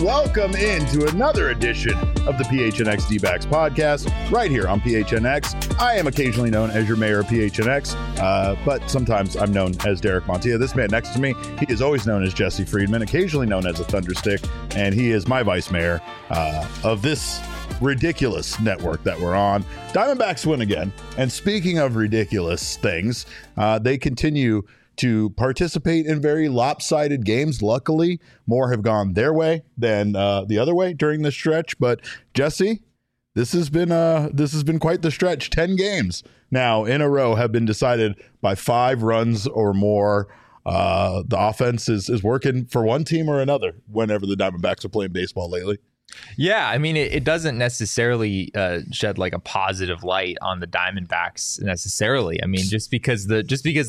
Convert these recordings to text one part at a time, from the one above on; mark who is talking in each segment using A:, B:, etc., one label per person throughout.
A: welcome into another edition of the PHNX D-backs podcast right here on PHNX. I am occasionally known as your mayor of PHNX, but sometimes I'm known as Derek Montilla. This man next to me, he is always known as Jesse Friedman, occasionally known as a Thunderstick, and he is my vice mayor of this ridiculous network that we're on. Diamondbacks win again, and speaking of ridiculous things, they continue to participate in very lopsided games. Luckily, more have gone their way than the other way during this stretch. But Jesse, this has been quite the stretch. 10 games now in a row have been decided by 5 runs or more. The offense is working for one team or another whenever the Diamondbacks are playing baseball lately.
B: Yeah, I mean, it doesn't necessarily shed like a positive light on the Diamondbacks necessarily. I mean, just because the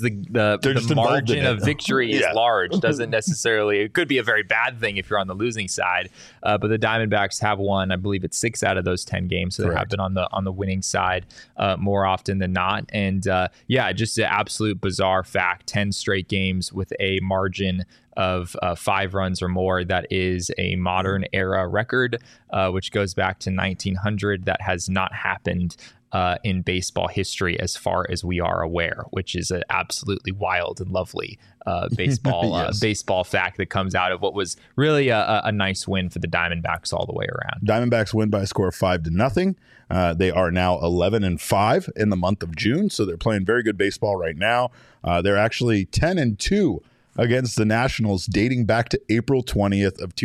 B: margin of victory is large doesn't necessarily. It could be a very bad thing if you're on the losing side. But the Diamondbacks have won, I believe it's 6 out of those 10 games, so they have been on the winning side more often than not. And just an absolute bizarre fact: 10 straight games with a margin of 5 runs or more. That is a modern era record, which goes back to 1900. That has not happened in baseball history as far as we are aware, which is an absolutely wild and lovely baseball fact that comes out of what was really a nice win for the Diamondbacks all the way around.
A: Diamondbacks win by a score of 5-0. They are now 11-5 in the month of June, so they're playing very good baseball right now. They're actually 10-2 against the Nationals dating back to April 20th of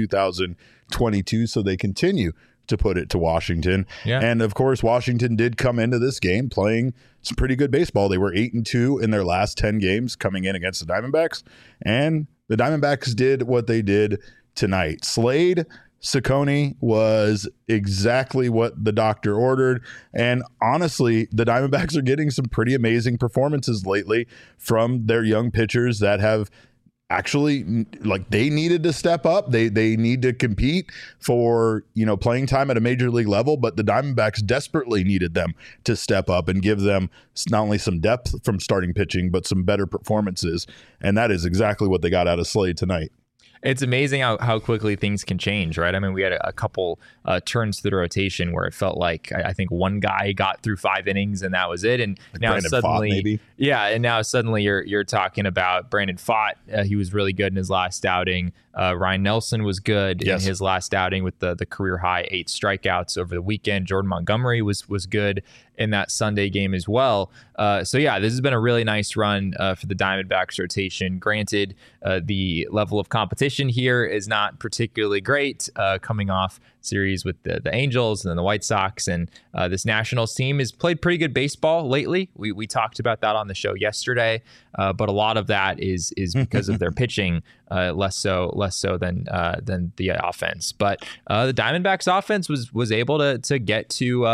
A: 2022. So they continue to put it to Washington. Yeah. And of course, Washington did come into this game playing some pretty good baseball. They were 8-2 in their last 10 games coming in against the Diamondbacks. And the Diamondbacks did what they did tonight. Slade Cecconi was exactly what the doctor ordered. And honestly, the Diamondbacks are getting some pretty amazing performances lately from their young pitchers that have actually, like, they needed to step up. They need to compete for, playing time at a major league level, but the Diamondbacks desperately needed them to step up and give them not only some depth from starting pitching, but some better performances. And that is exactly what they got out of Slade tonight.
B: It's amazing how quickly things can change, right? I mean, we had a couple turns through the rotation where it felt like I think one guy got through 5 innings and that was it. And like now Brandon suddenly, Pfaadt, maybe. And now suddenly you're talking about Brandon Pfaadt. He was really good in his last outing. Ryan Nelson was good in his last outing with the career high 8 strikeouts over the weekend. Jordan Montgomery was good in that Sunday game as well. This has been a really nice run for the Diamondbacks rotation. Granted, the level of competition here is not particularly great, coming off series with the Angels and then the White Sox, and this Nationals team has played pretty good baseball lately. We talked about that on the show yesterday, but a lot of that is because of their pitching, less so than the offense. But the Diamondbacks offense was able to get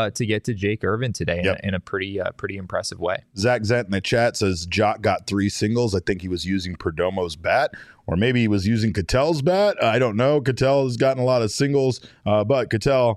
B: to Jake Irvin today in a pretty impressive way.
A: Zach Zent in the chat says Jock got 3 singles. I think he was using Perdomo's bat, or maybe he was using Ketel's bat. I don't know. Ketel has gotten a lot of singles, but Ketel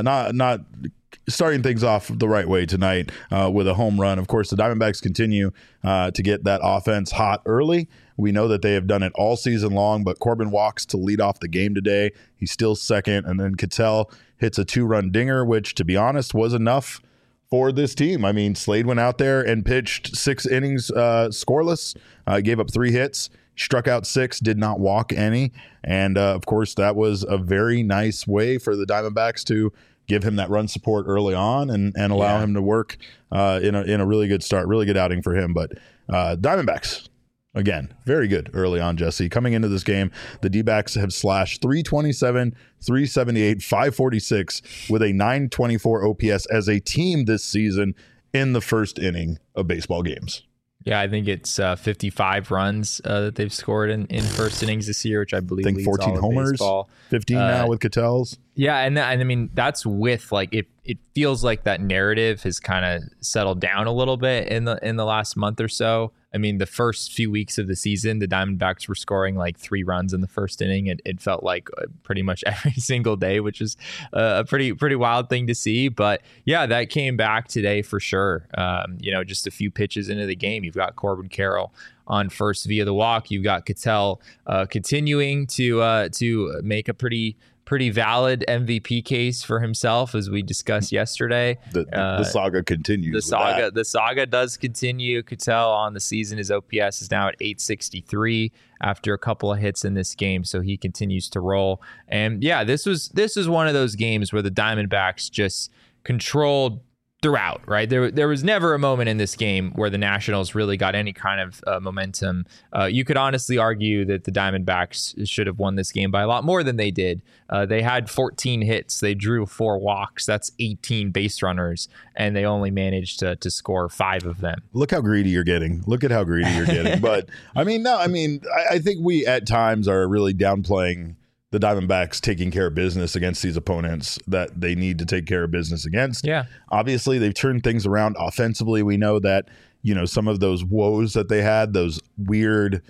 A: not starting things off the right way tonight with a home run. Of course, the Diamondbacks continue to get that offense hot early. We know that they have done it all season long, but Corbin walks to lead off the game today. He's still second, and then Ketel hits a 2-run dinger, which, to be honest, was enough for this team. I mean, Slade went out there and pitched 6 innings scoreless, gave up 3 hits, struck out 6, did not walk any. And, of course, that was a very nice way for the Diamondbacks to give him that run support early on and allow him to work in a really good start, really good outing for him. But Diamondbacks, again, very good early on, Jesse. Coming into this game, the D-backs have slashed 327, 378, 546 with a 924 OPS as a team this season in the first inning of baseball games.
B: Yeah, I think it's 55 runs that they've scored in first innings this year, which I believe leads
A: 14
B: all
A: homers,
B: baseball.
A: 15 now with Ketel's.
B: Yeah, and I mean, that's with, like, it feels like that narrative has kind of settled down a little bit in the last month or so. I mean, the first few weeks of the season, the Diamondbacks were scoring like 3 runs in the first inning. It felt like pretty much every single day, which is a pretty wild thing to see. But yeah, that came back today for sure. Just a few pitches into the game, you've got Corbin Carroll on first via the walk. You've got Ketel continuing to make a pretty pretty valid MVP case for himself, as we discussed yesterday.
A: The saga continues.
B: The saga does continue. Ketel on the season, his OPS is now at 863 after a couple of hits in this game, so he continues to roll. And yeah, this is one of those games where the Diamondbacks just controlled throughout, right? There was never a moment in this game where the Nationals really got any kind of momentum. You could honestly argue that the Diamondbacks should have won this game by a lot more than they did. They had 14 hits. They drew 4 walks. That's 18 base runners, and they only managed to score 5 of them.
A: Look how greedy you're getting. Look at how greedy you're getting. But, I think we at times are really downplaying the Diamondbacks taking care of business against these opponents that they need to take care of business against.
B: Yeah.
A: Obviously, they've turned things around offensively. We know that, some of those woes that they had, those weird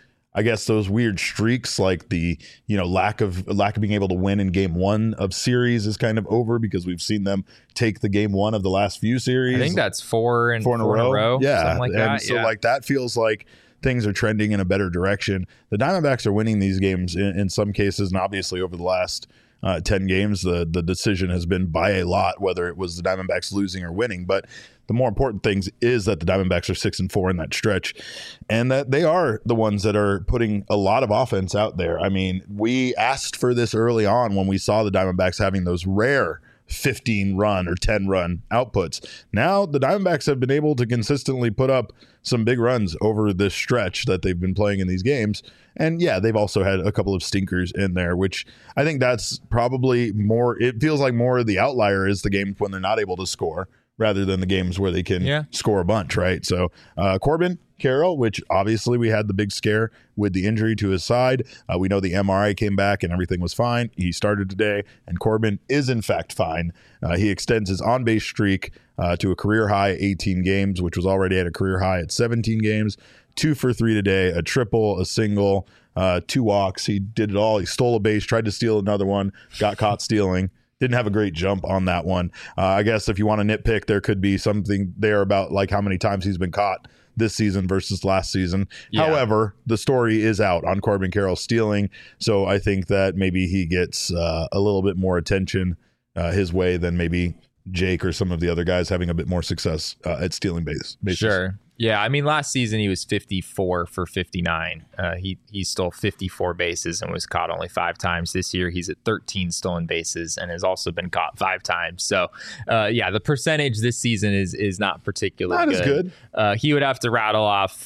A: streaks, like the, lack of being able to win in game 1 of series is kind of over, because we've seen them take the game 1 of the last few series.
B: I think that's 4 in a row.
A: Yeah.
B: Something like that.
A: So that feels like things are trending in a better direction. The Diamondbacks are winning these games in some cases, and obviously over the last 10 games, the decision has been by a lot, whether it was the Diamondbacks losing or winning. But the more important things is that the Diamondbacks are 6-4 in that stretch, and that they are the ones that are putting a lot of offense out there. I mean, we asked for this early on when we saw the Diamondbacks having those rare 15-run or 10-run outputs. Now the Diamondbacks have been able to consistently put up some big runs over this stretch that they've been playing in these games. And yeah, they've also had a couple of stinkers in there, which I think that's probably more, it feels like more of the outlier is the games when they're not able to score rather than the games where they can score a bunch, right? So Corbin Carroll, which obviously we had the big scare with the injury to his side. We know the MRI came back and everything was fine. He started today, and Corbin is in fact fine. He extends his on-base streak to a career high 18 games, which was already at a career high at 17 games. 2 for 3 today, a triple, a single, 2 walks. He did it all. He stole a base, tried to steal another one, got caught stealing. Didn't have a great jump on that one. I guess if you want to nitpick, there could be something there about like how many times he's been caught this season versus last season. Yeah. However, the story is out on Corbin Carroll stealing, so I think that maybe he gets a little bit more attention his way than maybe Jake or some of the other guys having a bit more success at stealing bases.
B: Sure. Yeah, I mean, last season he was 54 for 59. He stole 54 bases and was caught only 5 times. This year he's at 13 stolen bases and has also been caught 5 times. So, the percentage this season is not particularly good. He would have to rattle off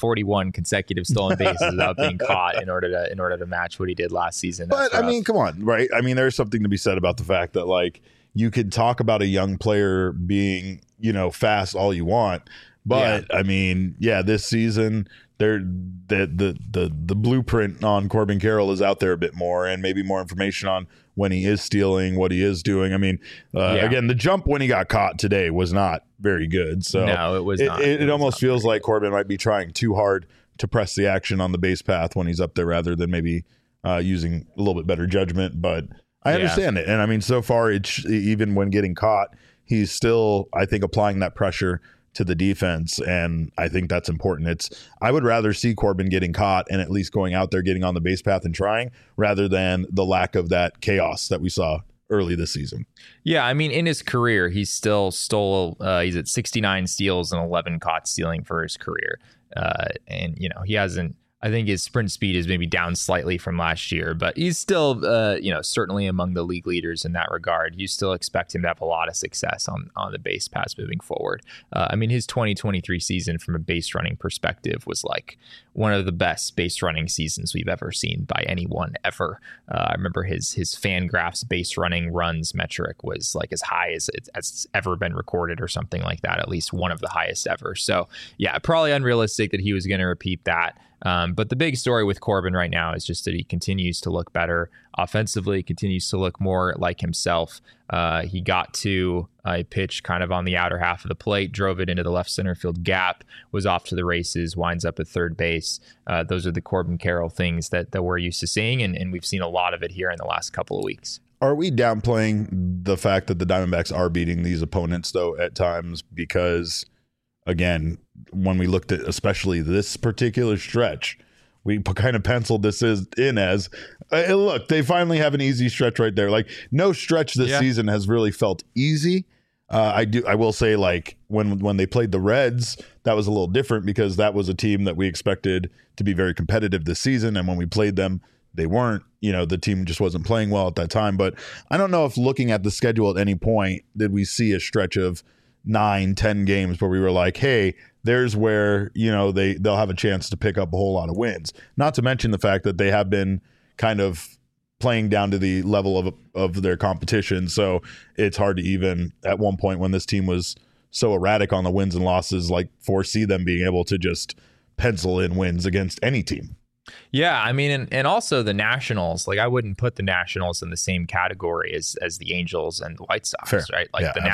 B: 41 consecutive stolen bases without being caught in order to match what he did last season.
A: But I mean, come on, right? I mean, there's something to be said about the fact that like you could talk about a young player being, fast all you want. But I mean, this season the blueprint on Corbin Carroll is out there a bit more, and maybe more information on when he is stealing, what he is doing. I mean, again, the jump when he got caught today was not very good. So
B: no, it was not.
A: It almost feels like Corbin might be trying too hard to press the action on the base path when he's up there, rather than maybe using a little bit better judgment. But I understand it, and I mean, so far, even when getting caught, he's still, I think, applying that pressure to the defense, and I think that's important. I would rather see Corbin getting caught and at least going out there, getting on the base path and trying, rather than the lack of that chaos that we saw early this season.
B: Yeah, I mean, in his career, he's still he's at 69 steals and 11 caught stealing for his career. And, he hasn't, I think his sprint speed is maybe down slightly from last year, but he's still, certainly among the league leaders in that regard. You still expect him to have a lot of success on the base paths moving forward. I mean, his 2023 season from a base running perspective was like one of the best base running seasons we've ever seen by anyone ever. I remember his Fangraphs base running runs metric was like as high as it's ever been recorded or something like that, at least one of the highest ever. So yeah, probably unrealistic that he was going to repeat that. But the big story with Corbin right now is just that he continues to look better offensively, continues to look more like himself. He got to a pitch kind of on the outer half of the plate, drove it into the left center field gap, was off to the races, winds up at third base. Those are the Corbin Carroll things that we're used to seeing, and we've seen a lot of it here in the last couple of weeks.
A: Are we downplaying the fact that the Diamondbacks are beating these opponents, though, at times? Because, again, when we looked at especially this particular stretch, we kind of penciled this in as. Look, they finally have an easy stretch right there. Like, no stretch this season has really felt easy. I will say, like, when they played the Reds, that was a little different because that was a team that we expected to be very competitive this season. And when we played them, they weren't. The team just wasn't playing well at that time. But I don't know if looking at the schedule at any point did we see a stretch of 9-10 games where we were like, hey, there's where they'll have a chance to pick up a whole lot of wins. Not to mention the fact that they have been kind of playing down to the level of their competition. So it's hard to even, at one point when this team was so erratic on the wins and losses, like, foresee them being able to just pencil in wins against any team.
B: Yeah, I mean, and also the Nationals, like, I wouldn't put the Nationals in the same category as the Angels and the White Sox, Fair. Right? Like, the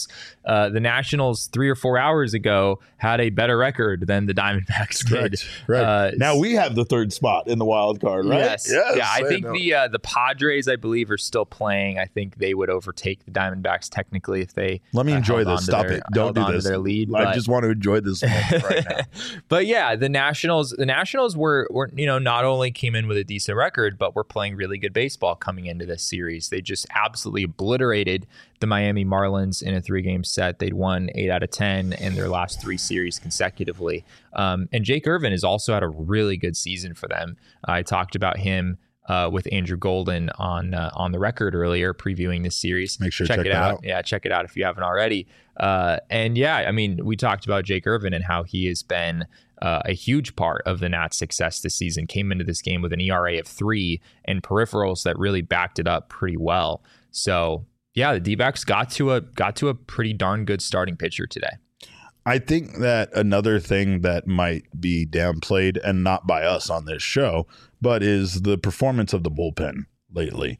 B: Nationals 3 or 4 hours ago had a better record than the Diamondbacks did.
A: Right. Now we have the third spot in the wild card, right?
B: Yes. Yeah, I think the Padres, I believe, are still playing. I think they would overtake the Diamondbacks technically if they
A: let me enjoy this. Stop it. Don't do this.
B: Their lead,
A: I just want to enjoy this moment right now.
B: But yeah, the Nationals were not only came in with a decent record, but were playing really good baseball coming into this series. They just absolutely obliterated the Miami Marlins in a 3-game set. They'd won 8 out of 10 in their last 3 series consecutively. And Jake Irvin has also had a really good season for them. I talked about him with Andrew Golden on the record earlier, previewing this series.
A: Make sure to check it out.
B: Yeah, check it out if you haven't already. And yeah, I mean, we talked about Jake Irvin and how he has been a huge part of the Nats' success this season. Came into this game with an ERA of 3 and peripherals that really backed it up pretty well. So yeah, the D-backs got to a pretty darn good starting pitcher today.
A: I think that another thing that might be downplayed, and not by us on this show, but is the performance of the bullpen lately.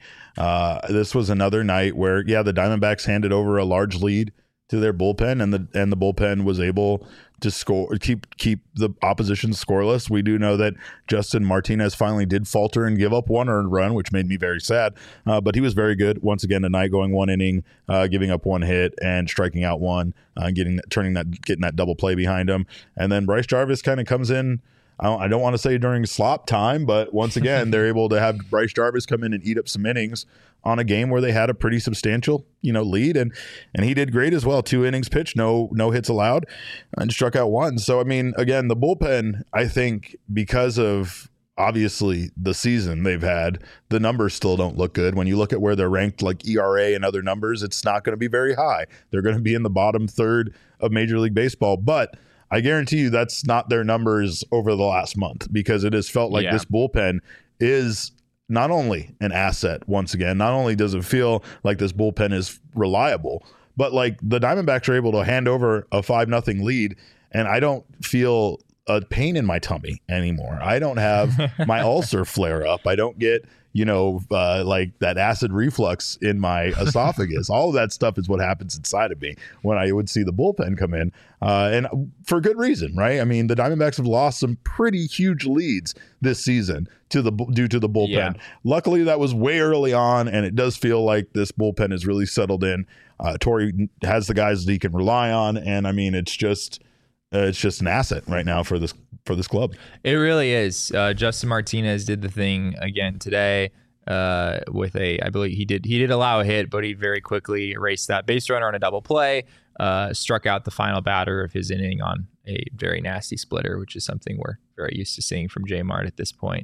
A: This was another night where, the Diamondbacks handed over a large lead to their bullpen, and the bullpen was able to score, keep the opposition scoreless. We do know that Justin Martinez finally did falter and give up 1 earned run, which made me very sad. But he was very good once again tonight, going 1 inning, giving up 1 hit and striking out 1, getting that double play behind him. And then Bryce Jarvis kind of comes in. I don't want to say during slop time, but once again, they're able to have Bryce Jarvis come in and eat up some innings on a game where they had a pretty substantial, lead, and he did great as well. 2 innings pitched, no hits allowed, and struck out 1. So I mean, again, the bullpen, I think, because of obviously the season they've had, the numbers still don't look good. When you look at where they're ranked, like ERA and other numbers, it's not going to be very high. They're going to be in the bottom third of Major League Baseball, but I guarantee you that's not their numbers over the last month, because it has felt like this bullpen is not only an asset once again, not only does it feel like this bullpen is reliable, but like the Diamondbacks are able to hand over a 5-0 lead, and I don't feel a pain in my tummy anymore. I don't have my ulcer flare up. I don't get like that acid reflux in my esophagus. All of that stuff is what happens inside of me when I would see the bullpen come in, and for good reason, right? I mean, the Diamondbacks have lost some pretty huge leads this season due to the bullpen. Yeah. Luckily, that was way early on, and it does feel like this bullpen is really settled in. Torey has the guys that he can rely on, and I mean, it's just an asset right now for this club. It
B: really is. Justin Martinez did the thing again today with I believe he did allow a hit, but he very quickly erased that base runner on a double play, struck out the final batter of his inning on a very nasty splitter, which is something we're very used to seeing from J Mart at this point.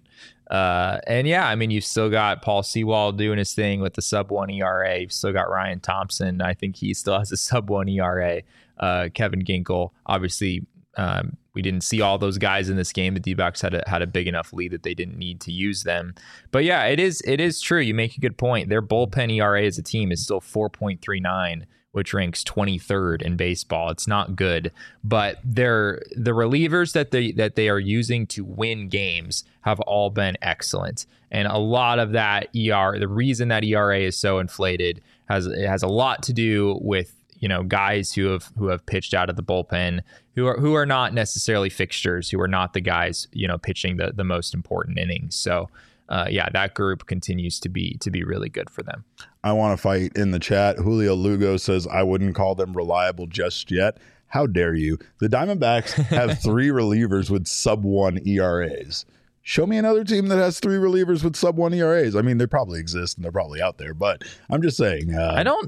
B: And yeah, I mean, you've still got Paul Sewald doing his thing with the sub-1 ERA. You've still got Ryan Thompson. I think he still has a sub-1 ERA. Kevin Ginkel, obviously, we didn't see all those guys in this game. The D-backs had a big enough lead that they didn't need to use them. But yeah, it is true. You make a good point. Their bullpen ERA as a team is still 4.39, which ranks 23rd in baseball. It's not good, but the relievers that they are using to win games have all been excellent. And a lot of that the reason that ERA is so inflated has a lot to do with guys who have pitched out of the bullpen, who are not necessarily fixtures, who are not the guys pitching the most important innings. So that group continues to be really good for them.
A: I want to fight in the chat. Julio Lugo says, I wouldn't call them reliable just yet. How dare you? The Diamondbacks have 3 relievers with sub-1 ERAs. Show me another team that has 3 relievers with sub 1 ERAs. I mean, they probably exist and they're probably out there, but I'm just saying.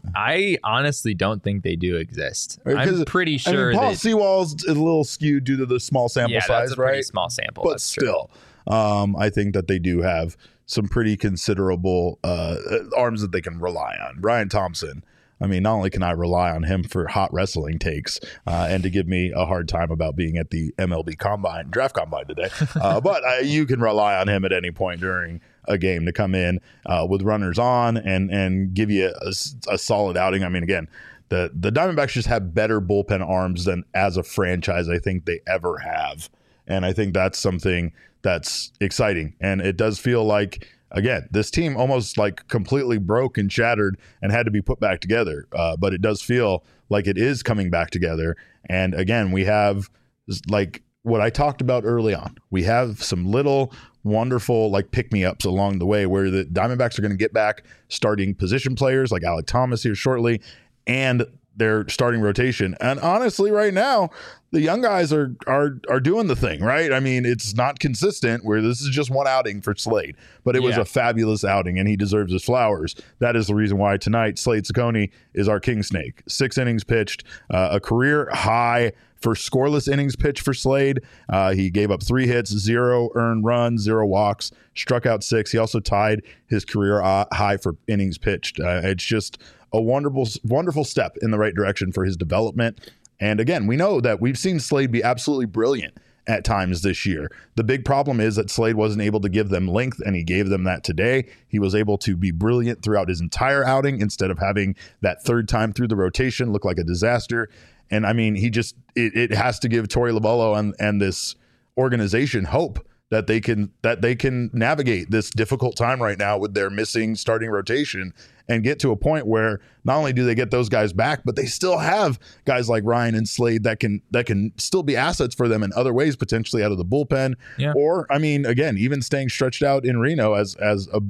B: I honestly don't think they do exist. I'm pretty sure.
A: Paul Sewell's a little skewed due to the small sample size,
B: that's a
A: right?
B: Pretty small sample,
A: but still, I think that they do have some pretty considerable arms that they can rely on. Ryan Thompson. I mean, not only can I rely on him for hot wrestling takes and to give me a hard time about being at the MLB draft combine today, but you can rely on him at any point during a game to come in with runners on and give you a solid outing. I mean, again, the Diamondbacks just have better bullpen arms than as a franchise I think they ever have. And I think that's something that's exciting. And it does feel like, again, this team almost like completely broke and shattered and had to be put back together. But it does feel like it is coming back together. And again, we have like what I talked about early on. We have some little wonderful like pick-me-ups along the way where the Diamondbacks are going to get back starting position players like Alek Thomas here shortly and their starting rotation. And honestly, right now, the young guys are doing the thing, right? I mean, it's not consistent where this is just one outing for Slade, but it was a fabulous outing and he deserves his flowers. That is the reason why tonight Slade Cecconi is our king snake. 6 innings pitched, a career high for scoreless innings pitched for Slade. He gave up 3 hits, 0 earned runs, 0 walks, struck out 6. He also tied his career high for innings pitched. It's just a wonderful step in the right direction for his development. And again, we know that we've seen Slade be absolutely brilliant at times this year. The big problem is that Slade wasn't able to give them length, and he gave them that today. He was able to be brilliant throughout his entire outing instead of having that third time through the rotation look like a disaster. And I mean, it has to give Torey Lovullo and this organization hope that they can navigate this difficult time right now with their missing starting rotation and get to a point where not only do they get those guys back, but they still have guys like Ryan and Slade that can still be assets for them in other ways, potentially out of the bullpen. Yeah. Or, I mean, again, even staying stretched out in Reno as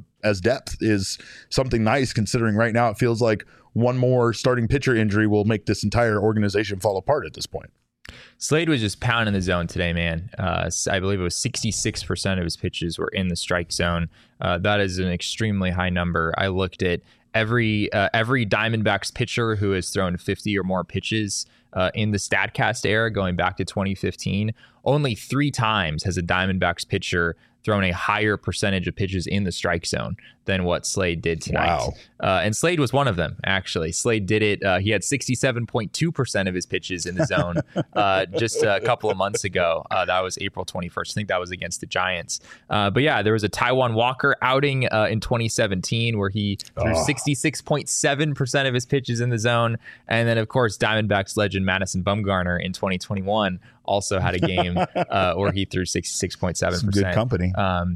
A: depth is something nice, considering right now it feels like one more starting pitcher injury will make this entire organization fall apart at this point.
B: Slade was just pounding the zone today, man. I believe it was 66% of his pitches were in the strike zone. That is an extremely high number. I looked at every Diamondbacks pitcher who has thrown 50 or more pitches in the StatCast era going back to 2015. Only 3 times has a Diamondbacks pitcher thrown a higher percentage of pitches in the strike zone than what Slade did tonight. Wow. And Slade was one of them, actually. Slade did it. He had 67.2% of his pitches in the zone just a couple of months ago. That was April 21st. I think that was against the Giants. But yeah, there was a Taijuan Walker outing in 2017 where he threw 66.7% of his pitches in the zone. And then, of course, Diamondbacks legend Madison Bumgarner in 2021 also had a game where he threw 66.7%.
A: Some good company.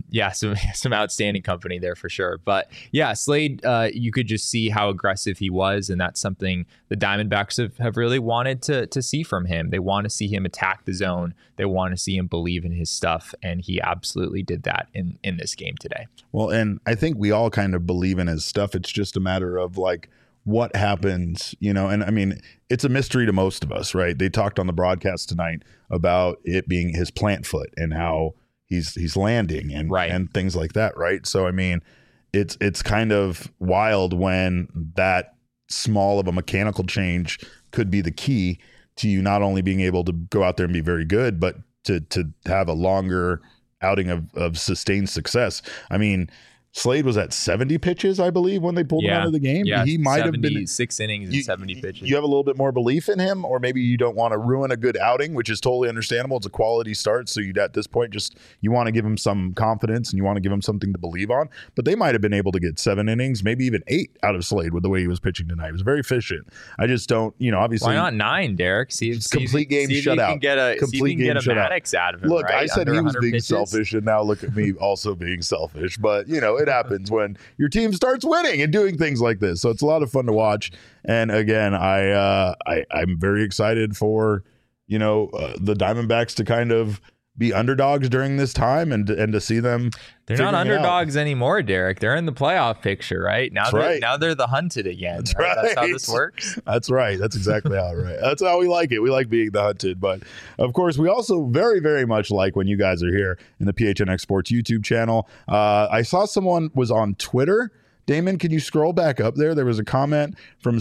B: Some outstanding company there for sure. But yeah, Slade, you could just see how aggressive he was, and that's something the Diamondbacks have really wanted to see from him. They want to see him attack the zone. They want to see him believe in his stuff, and he absolutely did that in this game today.
A: Well, and I think we all kind of believe in his stuff. It's just a matter of like what happens, and I mean, it's a mystery to most of us, right? They talked on the broadcast tonight about it being his plant foot and how he's landing and things like that, right? So I mean, it's kind of wild when that small of a mechanical change could be the key to you not only being able to go out there and be very good, but to have a longer outing of sustained success. I mean, Slade was at 70 pitches, I believe, when they pulled him out of the game.
B: Yeah,
A: he might have been
B: 6 innings and 70 pitches.
A: You have a little bit more belief in him, or maybe you don't want to ruin a good outing, which is totally understandable. It's a quality start, so you at this point you want to give him some confidence and you want to give him something to believe on. But they might have been able to get 7 innings, maybe even 8 out of Slade with the way he was pitching tonight. He was very efficient. I just don't, obviously.
B: Why not 9, Derek?
A: Complete game shutout.
B: Complete game Maddox out of him.
A: Look,
B: right?
A: I said he was being selfish, and now look at me also being selfish. But it happens when your team starts winning and doing things like this. So it's a lot of fun to watch. And again, I'm very excited for, the Diamondbacks to kind of be underdogs during this time and to see them.
B: They're not underdogs anymore, Derek. They're in the playoff picture, right? Now they're the hunted again. That's right. That's how this works.
A: That's right. That's exactly how That's how we like it. We like being the hunted. But of course, we also very, very much like when you guys are here in the PHNX Sports YouTube channel. I saw someone was on Twitter. Damon, can you scroll back up there? There was a comment from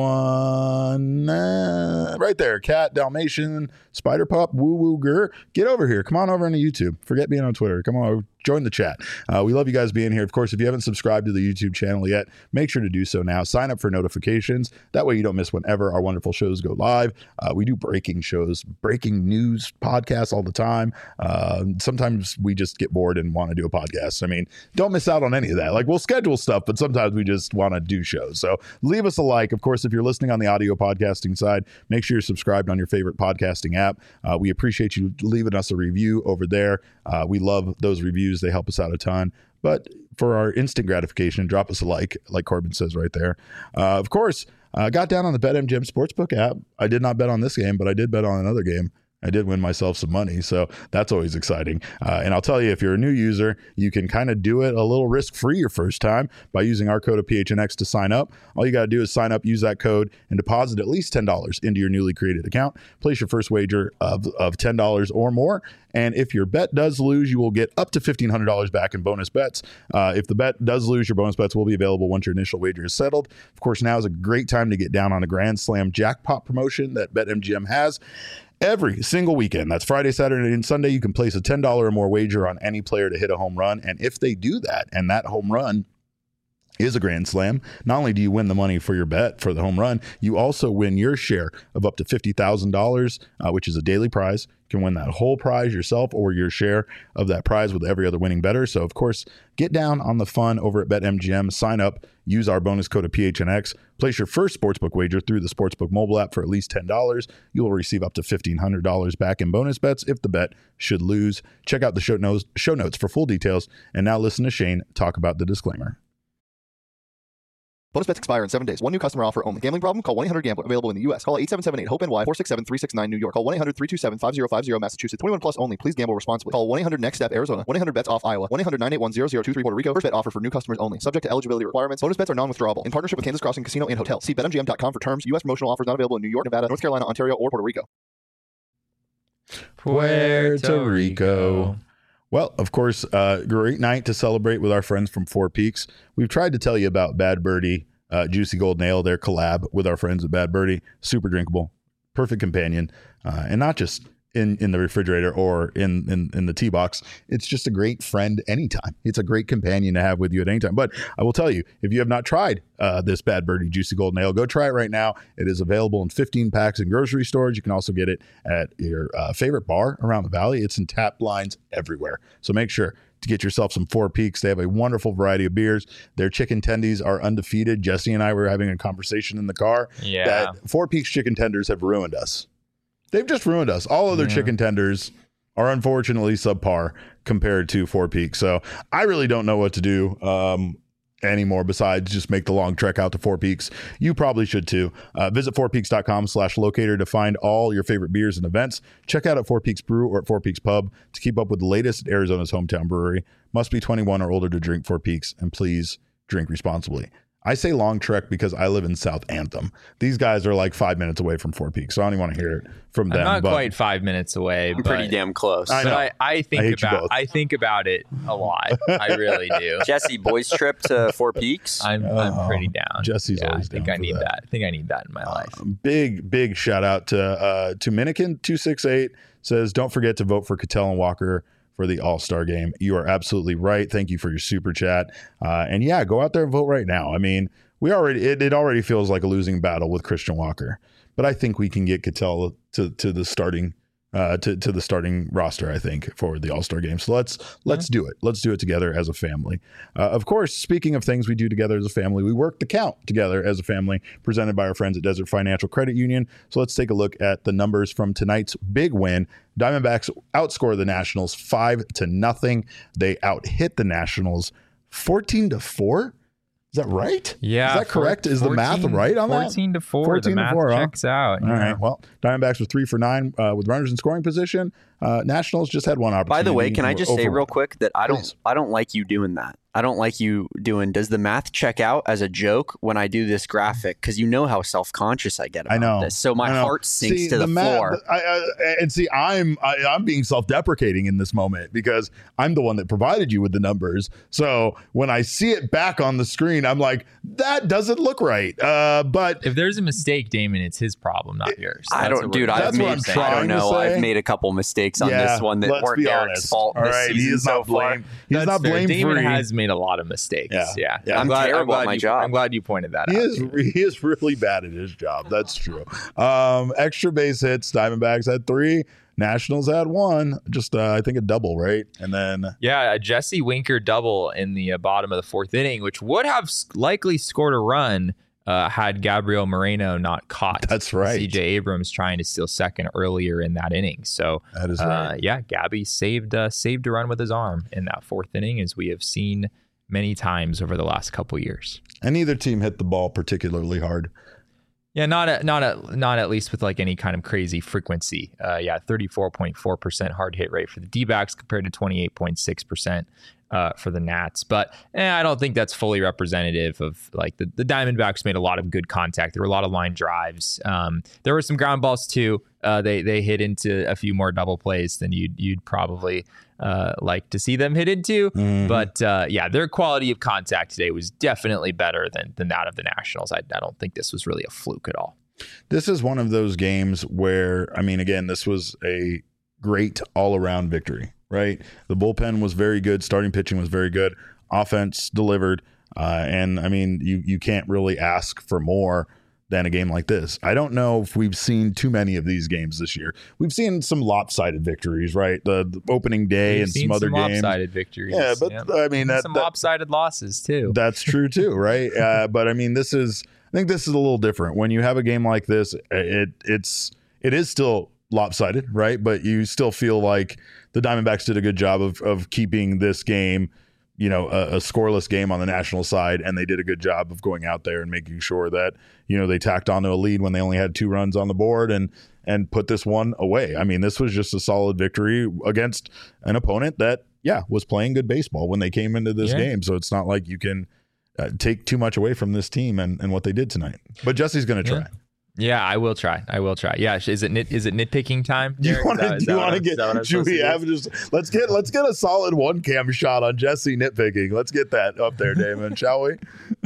A: someone right there. Cat, Dalmatian, Spider Pup, Woo Woo Gur. Get over here. Come on over into YouTube. Forget being on Twitter. Come on, join the chat. We love you guys being here. Of course, if you haven't subscribed to the YouTube channel yet, make sure to do so now. Sign up for notifications. That way you don't miss whenever our wonderful shows go live. We do breaking shows, breaking news podcasts all the time. Sometimes we just get bored and want to do a podcast. I mean, don't miss out on any of that. Like, we'll schedule stuff, but sometimes we just want to do shows. So leave us a like. Of course, if you're listening on the audio podcasting side, make sure you're subscribed on your favorite podcasting app. We appreciate you leaving us a review over there. We love those reviews. They help us out a ton. But for our instant gratification, drop us a like Corbin says right there. Of course, got down on the BetMGM Sportsbook app. I did not bet on this game, but I did bet on another game. I did win myself some money, so that's always exciting. And I'll tell you, if you're a new user, you can kind of do it a little risk-free your first time by using our code of PHNX to sign up. All you got to do is sign up, use that code, and deposit at least $10 into your newly created account. Place your first wager of $10 or more. And if your bet does lose, you will get up to $1,500 back in bonus bets. If the bet does lose, your bonus bets will be available once your initial wager is settled. Of course, now is a great time to get down on a Grand Slam jackpot promotion that BetMGM has. Every single weekend, that's Friday, Saturday, and Sunday, you can place a $10 or more wager on any player to hit a home run. And if they do that, and that home run is a Grand Slam, not only do you win the money for your bet for the home run, you also win your share of up to $50,000, which is a daily prize. You can win that whole prize yourself or your share of that prize with every other winning bettor. So, of course, get down on the fun over at BetMGM. Sign up. Use our bonus code of PHNX. Place your first sportsbook wager through the Sportsbook mobile app for at least $10. You will receive up to $1,500 back in bonus bets if the bet should lose. Check out the show notes for full details. And now listen to Shane talk about the disclaimer.
C: Bonus bets expire in 7 days. One new customer offer only. Gambling problem? Call 1-800-GAMBLER. Available in the U.S. Call 877-8-HOPE-NY, 467-369 New York. Call 1-800-327-5050 Massachusetts. 21 plus only. Please gamble responsibly. Call 1-800-NEXT-STEP Arizona. 1-800-BETS-OFF Iowa. 1-800-981-0023 Puerto Rico. First bet offer for new customers only. Subject to eligibility requirements. Bonus bets are non-withdrawable. In partnership with Kansas Crossing Casino and Hotel. See BetMGM.com for terms. U.S. promotional offers not available in New York, Nevada, North Carolina, Ontario, or Puerto Rico.
B: Puerto Rico.
A: Well, of course, great night to celebrate with our friends from Four Peaks. We've tried to tell you about Bad Birdie, Juicy Golden Ale, their collab with our friends at Bad Birdie. Super drinkable, perfect companion, and not just in the refrigerator or in the tea box. It's just a great friend anytime. It's a great companion to have with you at any time. But I will tell you, if you have not tried this Bad Birdie Juicy Golden Ale, go try it right now. It is available in 15 packs in grocery stores. You can also get it at your favorite bar around the valley. It's in tap lines everywhere. So make sure to get yourself some Four Peaks. They have a wonderful variety of beers. Their chicken tendies are undefeated. Jesse and I were having a conversation in the car that Four Peaks chicken tenders have ruined us. They've just ruined us. All other chicken tenders are unfortunately subpar compared to Four Peaks. So I really don't know what to do anymore besides just make the long trek out to Four Peaks. You probably should too. Visit fourpeaks.com/locator to find all your favorite beers and events. Check out at Four Peaks Brew or at Four Peaks Pub to keep up with the latest at Arizona's hometown brewery. Must be 21 or older to drink Four Peaks, and please drink responsibly. I say long trek because I live in South Anthem. These guys are like 5 minutes away from Four Peaks, so I don't even want to hear it from them.
B: I'm not quite 5 minutes away.
D: I'm pretty damn close.
B: I know. I think about it a lot. I really do.
D: Jesse, boys trip to Four Peaks.
B: I'm pretty down.
A: Jesse's always down.
B: I need that. I think I need that in my life.
A: Big shout out to Minikin268 says, don't forget to vote for Cattell and Walker for the All-Star game. You are absolutely right. Thank you for your super chat. And yeah, go out there and vote right now. I mean, it already feels like a losing battle with Christian Walker, but I think we can get Cattell to the starting to the starting roster, I think, for the All-Star game. So let's do it. Let's do it together as a family. Of course, speaking of things we do together as a family, we work the count together as a family, presented by our friends at Desert Financial Credit Union. So let's take a look at the numbers from tonight's big win. Diamondbacks outscore the Nationals 5-0. They out-hit the Nationals 14-4. Is that right?
B: Yeah.
A: Is that correct? Is the math right on
B: 14
A: that?
B: 14-4. 14 the math 4, checks out.
A: All right. Well, Diamondbacks were 3 for 9 with runners in scoring position. Nationals just had one opportunity.
D: By the way, can I just say real quick that I don't like you doing that. I don't like you doing, does the math check out as a joke when I do this graphic? Because you know how self-conscious I get about this. So my heart sinks to the floor.
A: I'm being self-deprecating in this moment because I'm the one that provided you with the numbers. So when I see it back on the screen, I'm like, that doesn't look right. But
B: if there's a mistake, Damon, it's his problem, not yours.
D: I don't know. I've made a couple mistakes on this one that weren't Derek's fault.
A: All right, he is not blamed. He's not blamed.
B: Damon has made a lot of mistakes. Yeah.
D: I'm terrible at my job.
B: I'm glad you pointed that out.
A: He is really bad at his job. That's true. Extra base hits. Diamondbacks had 3. Nationals had 1. Just I think a double, right? And then
B: a Jesse Winker double in the bottom of the 4th inning, which would have likely scored a run had Gabriel Moreno not caught.
A: That's right.
B: CJ Abrams trying to steal second earlier in that inning. So
A: that is right.
B: Gabby saved a run with his arm in that 4th inning, as we have seen many times over the last couple years.
A: And neither team hit the ball particularly hard.
B: Yeah, not at least with like any kind of crazy frequency. 34.4% hard hit rate for the D-backs compared to 28.6% for the Nats. But I don't think that's fully representative of like the Diamondbacks made a lot of good contact. There were a lot of line drives. There were some ground balls too. They hit into a few more double plays than you'd probably like to see them hit into. Mm-hmm. But their quality of contact today was definitely better than that of the Nationals. I don't think this was really a fluke at all.
A: This is one of those games where, I mean, again, this was a great all-around victory, right? The bullpen was very good. Starting pitching was very good. Offense delivered. And, I mean, you can't really ask for more than a game like this. I don't know if we've seen too many of these games this year. We've seen some lopsided victories, right? The opening day and some other games.
B: Lopsided victories.
A: Yeah, but I mean,
B: some lopsided losses too.
A: That's true too, right? But I mean, I think this is a little different. When you have a game like this, it is still lopsided, right? But you still feel like the Diamondbacks did a good job of keeping this game, a scoreless game on the National side, and they did a good job of going out there and making sure that, they tacked onto a lead when they only had 2 runs on the board and put this one away. I mean, this was just a solid victory against an opponent that, was playing good baseball when they came into this game. So it's not like you can take too much away from this team and what they did tonight. But Jesse's going to try.
B: Yeah, I will try. Yeah, is it nitpicking time?
A: Do you want to get? Should we have just let's get a solid 1-cam shot on Jesse nitpicking. Let's get that up there, Damon, shall we?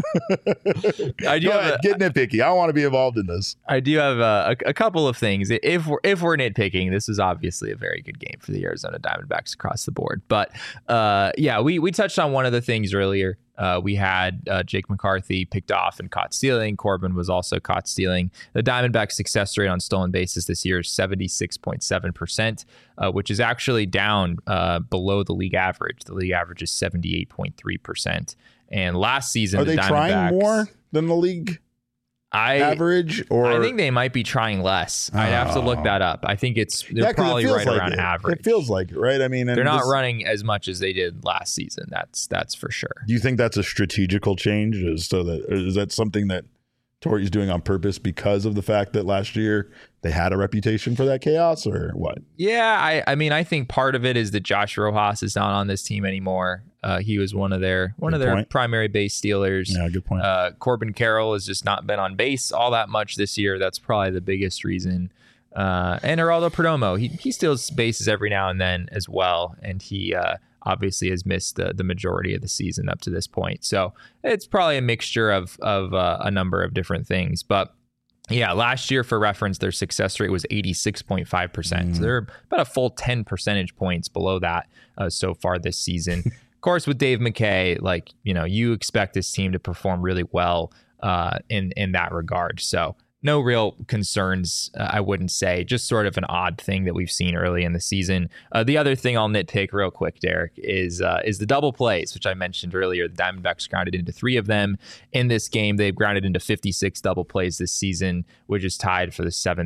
A: Get nitpicky. I want to be involved in this.
B: I do have a couple of things. If we're nitpicking, this is obviously a very good game for the Arizona Diamondbacks across the board. But we touched on one of the things earlier. We had Jake McCarthy picked off and caught stealing. Corbin was also caught stealing. The Diamondbacks' success rate on stolen bases this year is 76.7%, which is actually down below the league average. The league average is 78.3%. And last season,
A: are they trying more than the league average? Or
B: I think they might be trying less. I'd have to look that up. I think they're probably right around average.
A: It feels like it, right? I mean,
B: they're not running as much as they did last season. That's for sure.
A: Do you think that's a strategical change? Is that something that Torre's doing on purpose because of the fact that last year they had a reputation for that chaos, or what?
B: Yeah, I mean, I think part of it is that Josh Rojas is not on this team anymore. He was one of their primary base stealers.
A: Yeah, good point.
B: Corbin Carroll has just not been on base all that much this year. That's probably the biggest reason. And Geraldo Perdomo, he steals bases every now and then as well, and he obviously has missed the majority of the season up to this point. So it's probably a mixture of a number of different things. But yeah, last year, for reference, their success rate was 86.5%. So they're about a full 10 percentage points below that so far this season. Of course, with Dave McKay, you expect this team to perform really well in that regard. So no real concerns, I wouldn't say. Just sort of an odd thing that we've seen early in the season. The other thing I'll nitpick real quick, Derek, is the double plays, which I mentioned earlier. The Diamondbacks grounded into 3 of them in this game. They've grounded into 56 double plays this season, which is tied for the 7th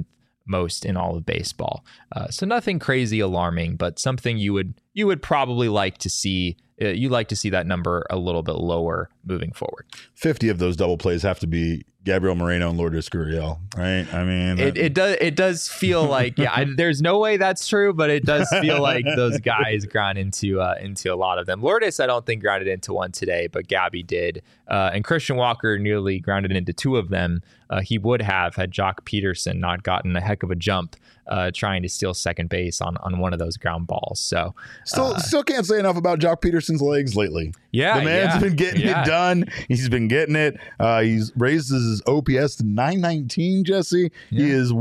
B: most in all of baseball. So nothing crazy alarming, but something you would probably like to see. You'd like to see that number a little bit lower moving forward.
A: 50 of those double plays have to be Gabriel Moreno and Lourdes Gurriel, right? I mean,
B: it does feel like, there's no way that's true, but it does feel like those guys ground into a lot of them. Lourdes, I don't think grounded into one today, but Gabby did. And Christian Walker nearly grounded into two of them. He would have had Joc Pederson not gotten a heck of a jump trying to steal second base on one of those ground balls. So
A: still can't say enough about Joc Pederson's legs lately.
B: Yeah,
A: the man's been getting it done. He's been getting it. He's raised his OPS to 919. Jesse, he is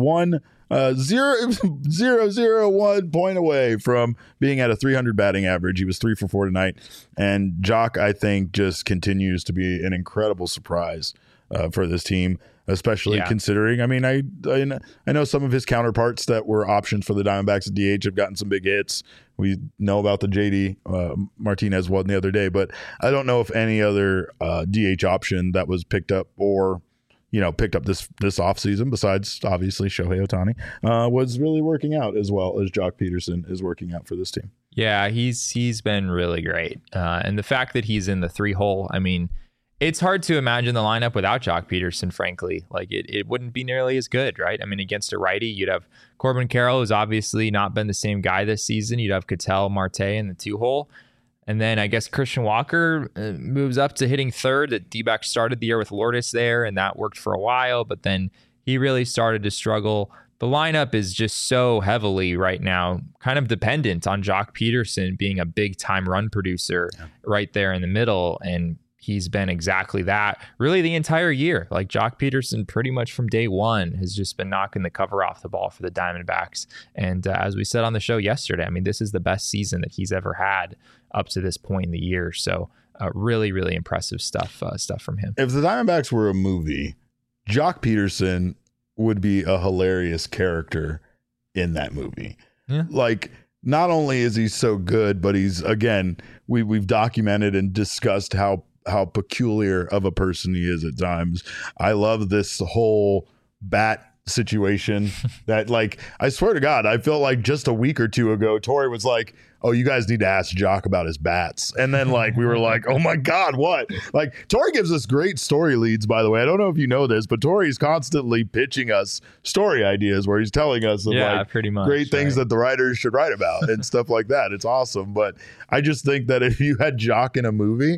A: 0.001 point away from being at a 300 batting average. He was 3 for 4 tonight, and Joc, I think, just continues to be an incredible surprise for this team. Especially considering, I mean, I know some of his counterparts that were options for the Diamondbacks at DH have gotten some big hits. We know about the JD Martinez one the other day, but I don't know if any other DH option that was picked up or picked up this offseason, besides obviously Shohei Ohtani, was really working out as well as Joc Pederson is working out for this team.
B: Yeah, he's been really great, and the fact that he's in the 3-hole, I mean. It's hard to imagine the lineup without Joc Pederson, frankly. Like, it wouldn't be nearly as good, right? I mean, against a righty, you'd have Corbin Carroll, who's obviously not been the same guy this season. You'd have Ketel Marte in the 2-hole. And then I guess Christian Walker moves up to hitting third. The D-backs started the year with Lourdes there, and that worked for a while. But then he really started to struggle. The lineup is just so heavily right now kind of dependent on Joc Pederson being a big-time run producer right there in the middle. And he's been exactly that really the entire year. Like, Joc Pederson pretty much from day one has just been knocking the cover off the ball for the Diamondbacks. And as we said on the show yesterday, I mean, this is the best season that he's ever had up to this point in the year. So really, really impressive stuff from him.
A: If the Diamondbacks were a movie, Joc Pederson would be a hilarious character in that movie. Yeah. Like, not only is he so good, but he's, again, we've documented and discussed how peculiar of a person he is at times. I love this whole bat situation that, like, I swear to God, I felt like just a week or two ago, Tori was like, oh, you guys need to ask Joc about his bats. And then, like, we were like, oh my God, what? Like, Tori gives us great story leads, by the way. I don't know if you know this, but Tori's constantly pitching us story ideas where he's telling us of
B: pretty much,
A: great things that the writers should write about and stuff like that. It's awesome. But I just think that if you had Joc in a movie,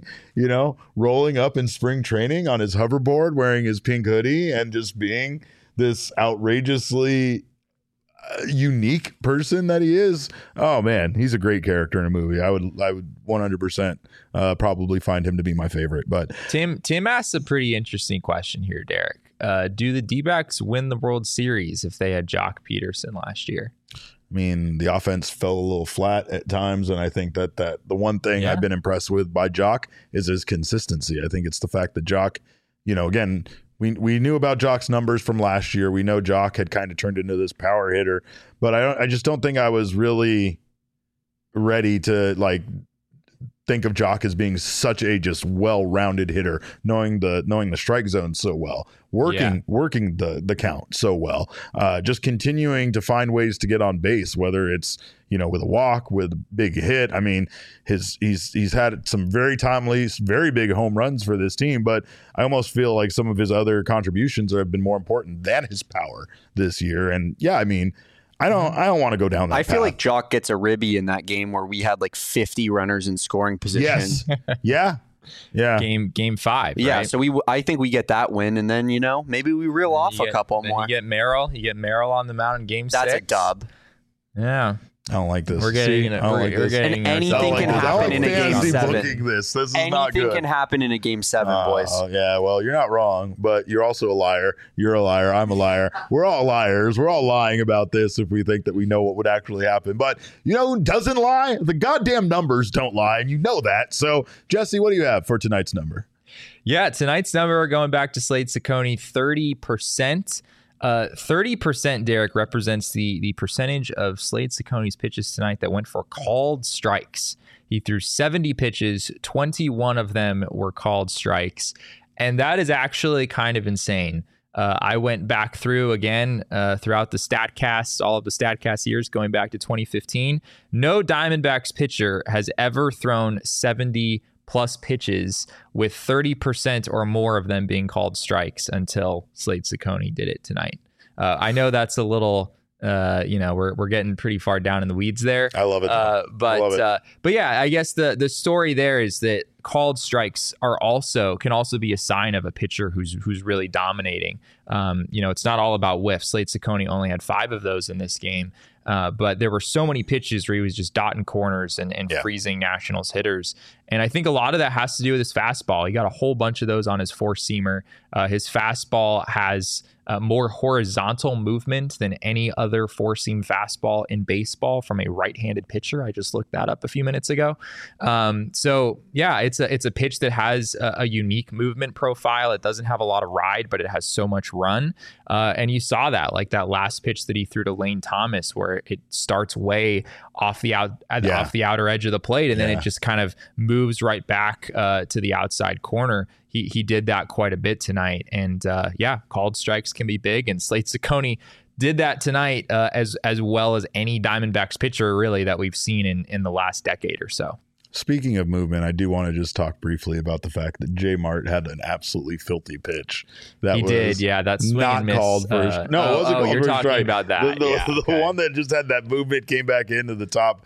A: rolling up in spring training on his hoverboard, wearing his pink hoodie and just being this outrageously unique person that he is, oh man, he's a great character in a movie. I would 100% probably find him to be my favorite. But
B: Tim asks a pretty interesting question here, Derek. Do the D-backs win the World Series if they had Joc Pederson last year?
A: I mean, the offense fell a little flat at times, and I think that the one thing I've been impressed with by Joc is his consistency. I think it's the fact that Joc, again, we knew about Joc's numbers from last year. We know Joc had kind of turned into this power hitter, but I just don't think I was really ready to, like, think of Joc as being such a just well-rounded hitter, knowing the strike zone so well, working the count so well, just continuing to find ways to get on base, whether it's with a walk, with a big hit. I mean, he's had some very timely, very big home runs for this team, but I almost feel like some of his other contributions have been more important than his power this year. And I mean, I don't want to go down that path.
D: I feel like Joc gets a ribby in that game where we had like 50 runners in scoring position.
A: Yes. Yeah.
B: Game 5. Right?
D: Yeah. So I think we get that win, and then maybe we reel off a couple more.
B: You get Merrill on the mound in game 6.
D: That's a dub.
B: Yeah.
A: I don't like this.
B: We're getting
D: anything can happen in a game 7.
A: This is
D: anything
A: not good.
D: Can happen in a game 7, boys.
A: Yeah, well, you're not wrong, but you're also a liar. You're a liar. I'm a liar. We're all liars. We're all lying about this if we think that we know what would actually happen. But who doesn't lie? The goddamn numbers don't lie, and you know that. So, Jesse, what do you have for tonight's number?
B: Yeah, tonight's number, we're going back to Slade Cecconi, 30%. 30%, Derek, represents the percentage of Slade Cecconi's pitches tonight that went for called strikes. He threw 70 pitches, 21 of them were called strikes. And that is actually kind of insane. I went back through again throughout the StatCast, all of the StatCast years going back to 2015. No Diamondbacks pitcher has ever thrown 70 plus pitches with 30% or more of them being called strikes until Slade Cecconi did it tonight. I know that's a little, we're getting pretty far down in the weeds there.
A: I love it.
B: But yeah, I guess the story there is that called strikes can also be a sign of a pitcher who's really dominating. It's not all about whiffs. Slade Cecconi only had 5 of those in this game. But there were so many pitches where he was just dotting corners and freezing Nationals hitters. And I think a lot of that has to do with his fastball. He got a whole bunch of those on his four-seamer. His fastball has more horizontal movement than any other four-seam fastball in baseball from a right-handed pitcher. I just looked that up a few minutes ago. So yeah, it's a pitch that has a unique movement profile. It doesn't have a lot of ride, but it has so much run. And you saw that, like that last pitch that he threw to Lane Thomas, where it starts way off the outer edge of the plate, and then it just kind of moves right back to the outside corner. He did that quite a bit tonight, and called strikes can be big, and Slade Cecconi did that tonight as well as any Diamondbacks pitcher really that we've seen in the last decade or so.
A: Speaking of movement, I do want to just talk briefly about the fact that J Mart had an absolutely filthy pitch.
B: He did, yeah. That's
A: not called for. It wasn't called for.
B: You're talking
A: strike.
B: About that.
A: The one that just had that movement came back into the top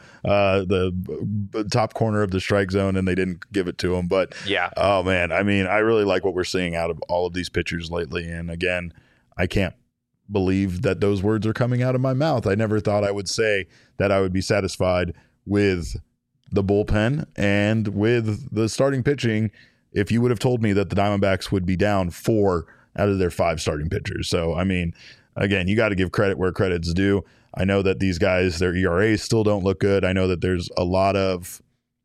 A: corner of the strike zone, and they didn't give it to him. But oh man, I mean, I really like what we're seeing out of all of these pitchers lately. And again, I can't believe that those words are coming out of my mouth. I never thought I would say that I would be satisfied with the bullpen and with the starting pitching if you would have told me that the Diamondbacks would be down 4 out of their 5 starting pitchers. So, I mean, again, you got to give credit where credit's due. I know that these guys, their ERAs still don't look good. I know that there's a lot of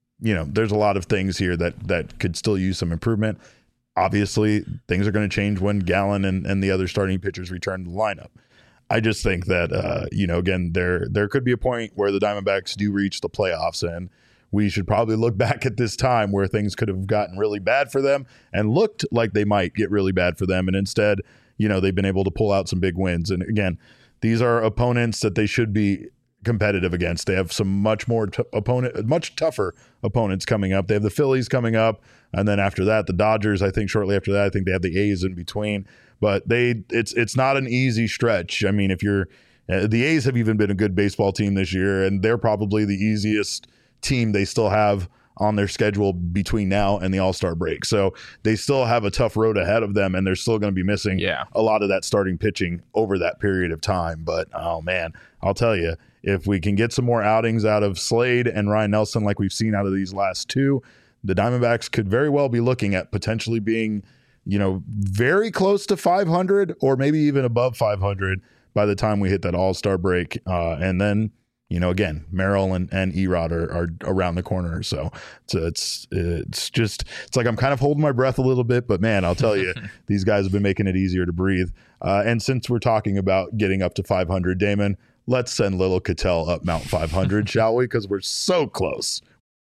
A: things here that could still use some improvement. Obviously, things are going to change when Gallen and the other starting pitchers return to the lineup. I just think that, again, there could be a point where the Diamondbacks do reach the playoffs, and we should probably look back at this time where things could have gotten really bad for them and looked like they might get really bad for them. And instead, they've been able to pull out some big wins. And again, these are opponents that they should be competitive against. They have some much tougher opponents coming up. They have the Phillies coming up. And then after that, the Dodgers, I think shortly after that, I think they have the A's in between. But it's not an easy stretch. I mean, the A's have even been a good baseball team this year, and they're probably the easiest team they still have on their schedule between now and the All-Star break. So they still have a tough road ahead of them, and they're still going to be missing a lot of that starting pitching over that period of time. But, oh, man, I'll tell you, if we can get some more outings out of Slade and Ryan Nelson like we've seen out of these last 2, the Diamondbacks could very well be looking at potentially being, very close to 500 or maybe even above 500 by the time we hit that All-Star break. And then, again, Merrill and Erod are around the corner. So it's like I'm kind of holding my breath a little bit, but man, I'll tell you, these guys have been making it easier to breathe. And since we're talking about getting up to 500, Damon, let's send little Ketel up Mount 500, shall we? Because we're so close.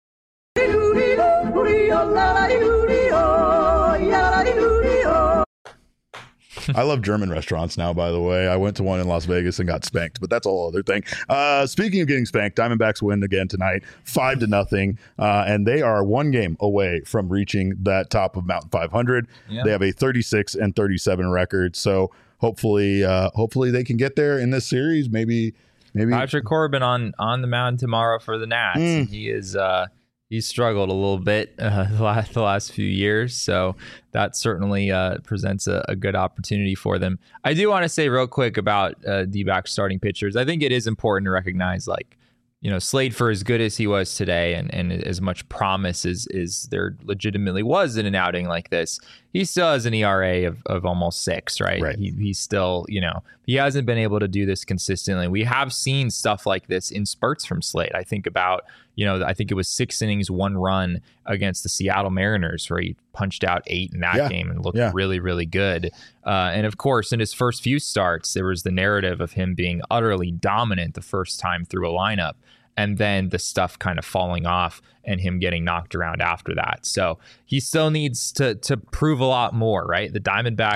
A: I love German restaurants now, by the way. I went to one in Las Vegas and got spanked, but that's a whole other thing. Speaking of getting spanked, Diamondbacks win again tonight, 5-0, and they are 1 game away from reaching that top of Mountain 500. Yeah. They have a 36-37 record, so hopefully they can get there in this series. Maybe
B: Patrick Corbin on the mound tomorrow for the Nats. He is. He's struggled a little bit the last few years, so that certainly presents a good opportunity for them. I do want to say real quick about D-backs starting pitchers. I think it is important to recognize, Slade, for as good as he was today and as much promise as there legitimately was in an outing like this, he still has an ERA of almost 6, right? He's still, he hasn't been able to do this consistently. We have seen stuff like this in spurts from Slade. I think about, I think it was 6 innings, 1 run against the Seattle Mariners where he punched out 8 in that game and looked really, really good. And of course, in his first few starts, there was the narrative of him being utterly dominant the first time through a lineup, and then the stuff kind of falling off and him getting knocked around after that. So he still needs to prove a lot more, right? The Diamondbacks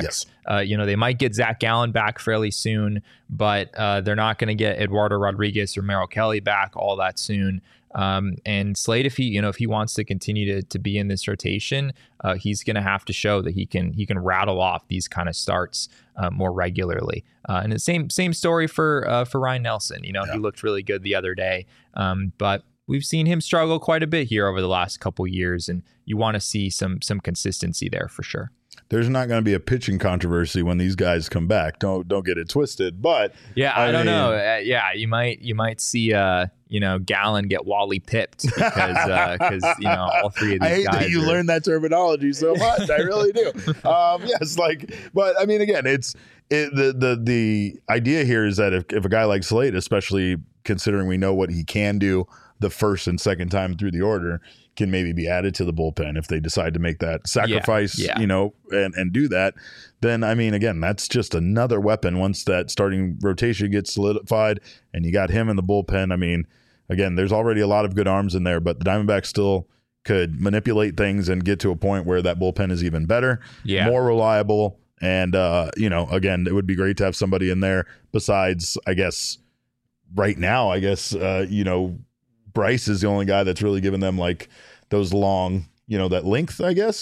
B: They might get Zach Gallen back fairly soon, but they're not going to get Eduardo Rodriguez or Merrill Kelly back all that soon. And Slade, if he wants to continue to be in this rotation, he's going to have to show that he can rattle off these kind of starts more regularly. And the same story for Ryan Nelson. He looked really good the other day, but we've seen him struggle quite a bit here over the last couple years, and you want to see some consistency there for sure.
A: There's not going to be a pitching controversy when these guys come back. Don't get it twisted. But
B: yeah, I don't know. You might see Gallen get Wally pipped because all three of these guys. I hate that you
A: learned that terminology so much. I really do. Yes, but I mean, again, the idea here is that if a guy like Slade, especially considering we know what he can do the first and second time through the order, can maybe be added to the bullpen if they decide to make that sacrifice, and do that, then, I mean, again, that's just another weapon once that starting rotation gets solidified and you got him in the bullpen. I mean, again, there's already a lot of good arms in there, but the Diamondbacks still could manipulate things and get to a point where that bullpen is even better, more reliable. And, again, it would be great to have somebody in there besides, right now, Bryce is the only guy that's really given them those long, that length,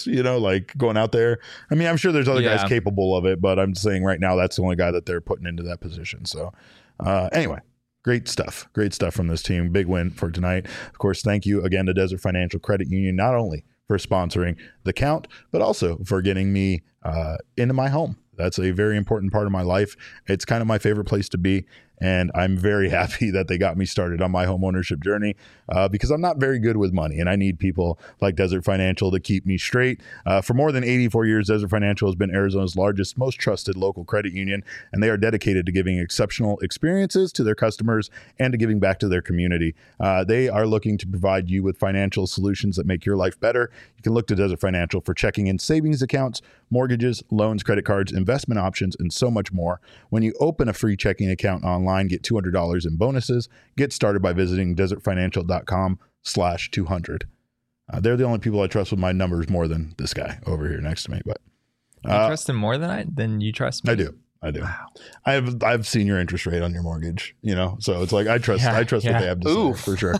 A: going out there. I mean, I'm sure there's other guys capable of it, but I'm saying right now that's the only guy that they're putting into that position. So anyway, great stuff from this team. Big win for tonight. Of course, thank you again to Desert Financial Credit Union, not only for sponsoring The Count, but also for getting me into my home. That's a very important part of my life. It's kind of my favorite place to be. And I'm very happy that they got me started on my home ownership journey because I'm not very good with money. And I need people like Desert Financial to keep me straight. For more than 84 years, Desert Financial has been Arizona's largest, most trusted local credit union. And they are dedicated to giving exceptional experiences to their customers and to giving back to their community. They are looking to provide you with financial solutions that make your life better. You can look to Desert Financial for checking and savings accounts, mortgages, loans, credit cards, investment options, and so much more. When you open a free checking account online, get $200 in bonuses. Get started by visiting desertfinancial.com/200. They're the only people I trust with my numbers more than this guy over here next to me. But
B: you trust him more than you trust me?
A: I do. Wow. I've seen your interest rate on your mortgage, so it's like I trust what they have to say for sure.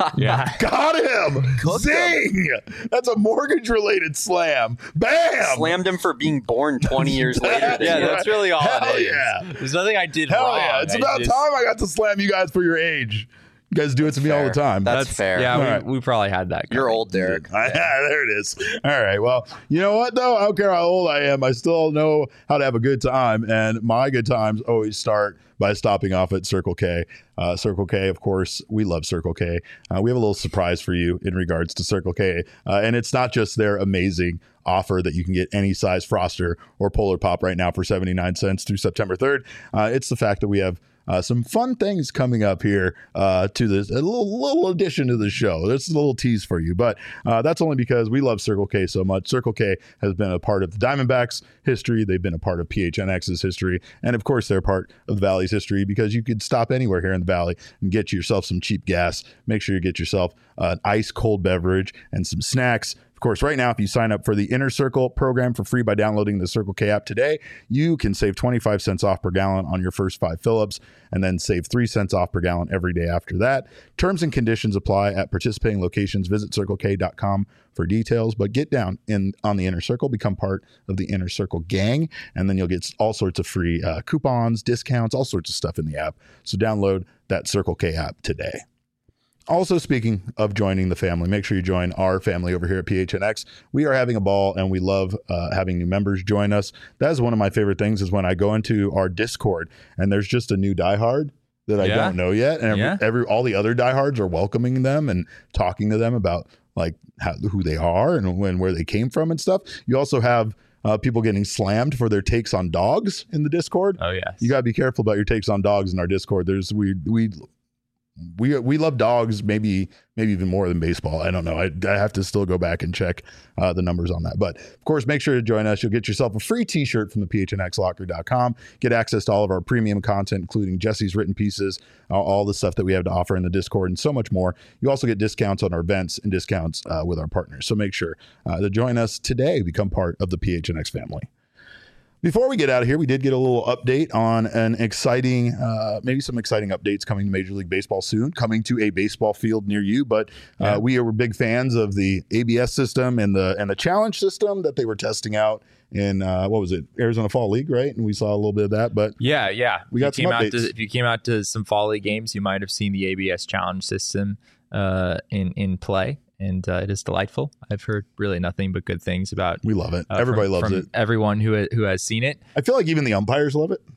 A: Got him. Zing! That's a mortgage related slam. Bam!
D: Slammed him for being born 20 years later.
B: That's really all it is.
A: Yeah.
B: There's nothing I did wrong.
A: Yeah. It's about time I got to slam you guys for your age. You guys do it to me all the time.
D: That's fair.
B: Yeah, we probably had that.
D: You're old, Derek.
A: There it is. All right. Well, you know what, though? I don't care how old I am. I still know how to have a good time. And my good times always start by stopping off at Circle K. Circle K, of course, we love Circle K. We have a little surprise for you in regards to Circle K. And it's not just their amazing offer that you can get any size Froster or Polar Pop right now for 79 cents through September 3rd. It's the fact that we have some fun things coming up here to this, a little addition to the show. That's a little tease for you, but that's only because we love Circle K so much. Circle K has been a part of the Diamondbacks history. They've been a part of PHNX's history. And of course, they're part of the Valley's history because you could stop anywhere here in the Valley and get yourself some cheap gas. Make sure you get yourself an ice cold beverage and some snacks. Of course, right now, if you sign up for the Inner Circle program for free by downloading the Circle K app today, you can save 25 cents off per gallon on your first 5 fill-ups and then save 3 cents off per gallon every day after that. Terms and conditions apply at participating locations. Visit CircleK.com for details, but get down on the Inner Circle, become part of the Inner Circle gang, and then you'll get all sorts of free coupons, discounts, all sorts of stuff in the app. So download that Circle K app today. Also, speaking of joining the family, make sure you join our family over here at PHNX. We are having a ball, and we love having new members join us. That is one of my favorite things is when I go into our Discord, and there's just a new diehard that I don't know yet. And all the other diehards are welcoming them and talking to them about who they are and where they came from and stuff. You also have people getting slammed for their takes on dogs in the Discord.
B: Oh, yes.
A: You got to be careful about your takes on dogs in our Discord. We love dogs, maybe even more than baseball. I don't know. I have to still go back and check the numbers on that. But of course, make sure to join us. You'll get yourself a free t-shirt from the phnxlocker.com. Get access to all of our premium content, including Jesse's written pieces, all the stuff that we have to offer in the Discord, and so much more. You also get discounts on our events and discounts with our partners. So make sure to join us today. Become part of the PHNX family. Before we get out of here, we did get a little update on an exciting, maybe some exciting updates coming to Major League Baseball soon, coming to a baseball field near you. But we are big fans of the ABS system and the challenge system that they were testing out in what was it, Arizona Fall League, right? And we saw a little bit of that. But
B: yeah,
A: we got some updates.
B: If you came out to some Fall League games, you might have seen the ABS challenge system in play. And it is delightful. I've heard really nothing but good things about.
A: We love it. Everybody loves it.
B: Everyone who has seen it.
A: I feel like even the umpires love it.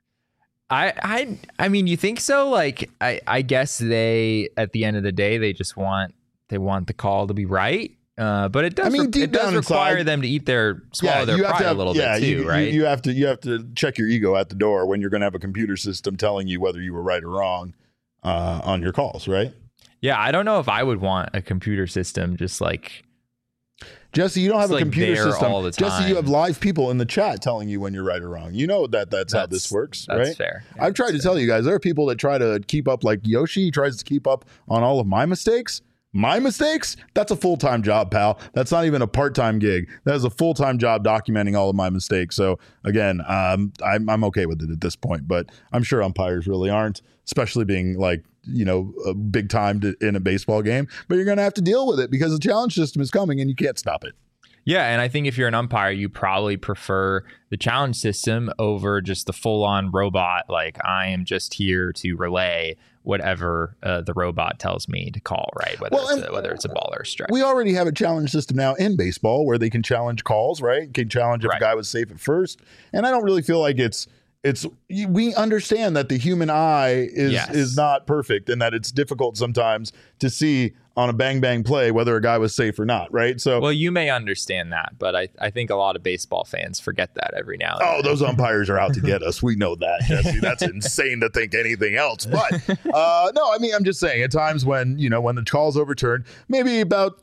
B: I mean, you think so? Like, I guess they, at the end of the day, they just want the call to be right. But it does. It does require them to swallow their pride a little bit too, right?
A: You have to check your ego at the door when you're going to have a computer system telling you whether you were right or wrong on your calls, right?
B: Yeah, I don't know if I would want a computer system just like
A: Jesse. You don't have a computer system
B: all the time.
A: Jesse, you have live people in the chat telling you when you're right or wrong. You know that's how this works,
B: that's
A: right?
B: That's fair. Yeah,
A: I've tried to tell you guys, there are people that try to keep up, like Yoshi. He tries to keep up on all of my mistakes. My mistakes? That's a full-time job, pal. That's not even a part-time gig. That is a full-time job documenting all of my mistakes. So again, I'm okay with it at this point, but I'm sure umpires really aren't, especially being like, a big time in a baseball game. But you're going to have to deal with it because the challenge system is coming and you can't stop it.
B: Yeah, and I think if you're an umpire, you probably prefer the challenge system over just the full-on robot. Like, I am just here to relay whatever the robot tells me to call, right? Whether it's a ball or a strike.
A: We already have a challenge system now in baseball where they can challenge calls, right? Can challenge if a guy was safe at first. And I don't really feel like we understand that the human eye is not perfect and that it's difficult sometimes to see on a bang bang play whether a guy was safe or not, right? So,
B: well, you may understand that, but I think a lot of baseball fans forget that every now and then.
A: Oh, those umpires are out to get us. We know that, Jesse. That's insane to think anything else. But no, I mean, I'm just saying at times when the call's overturned, maybe about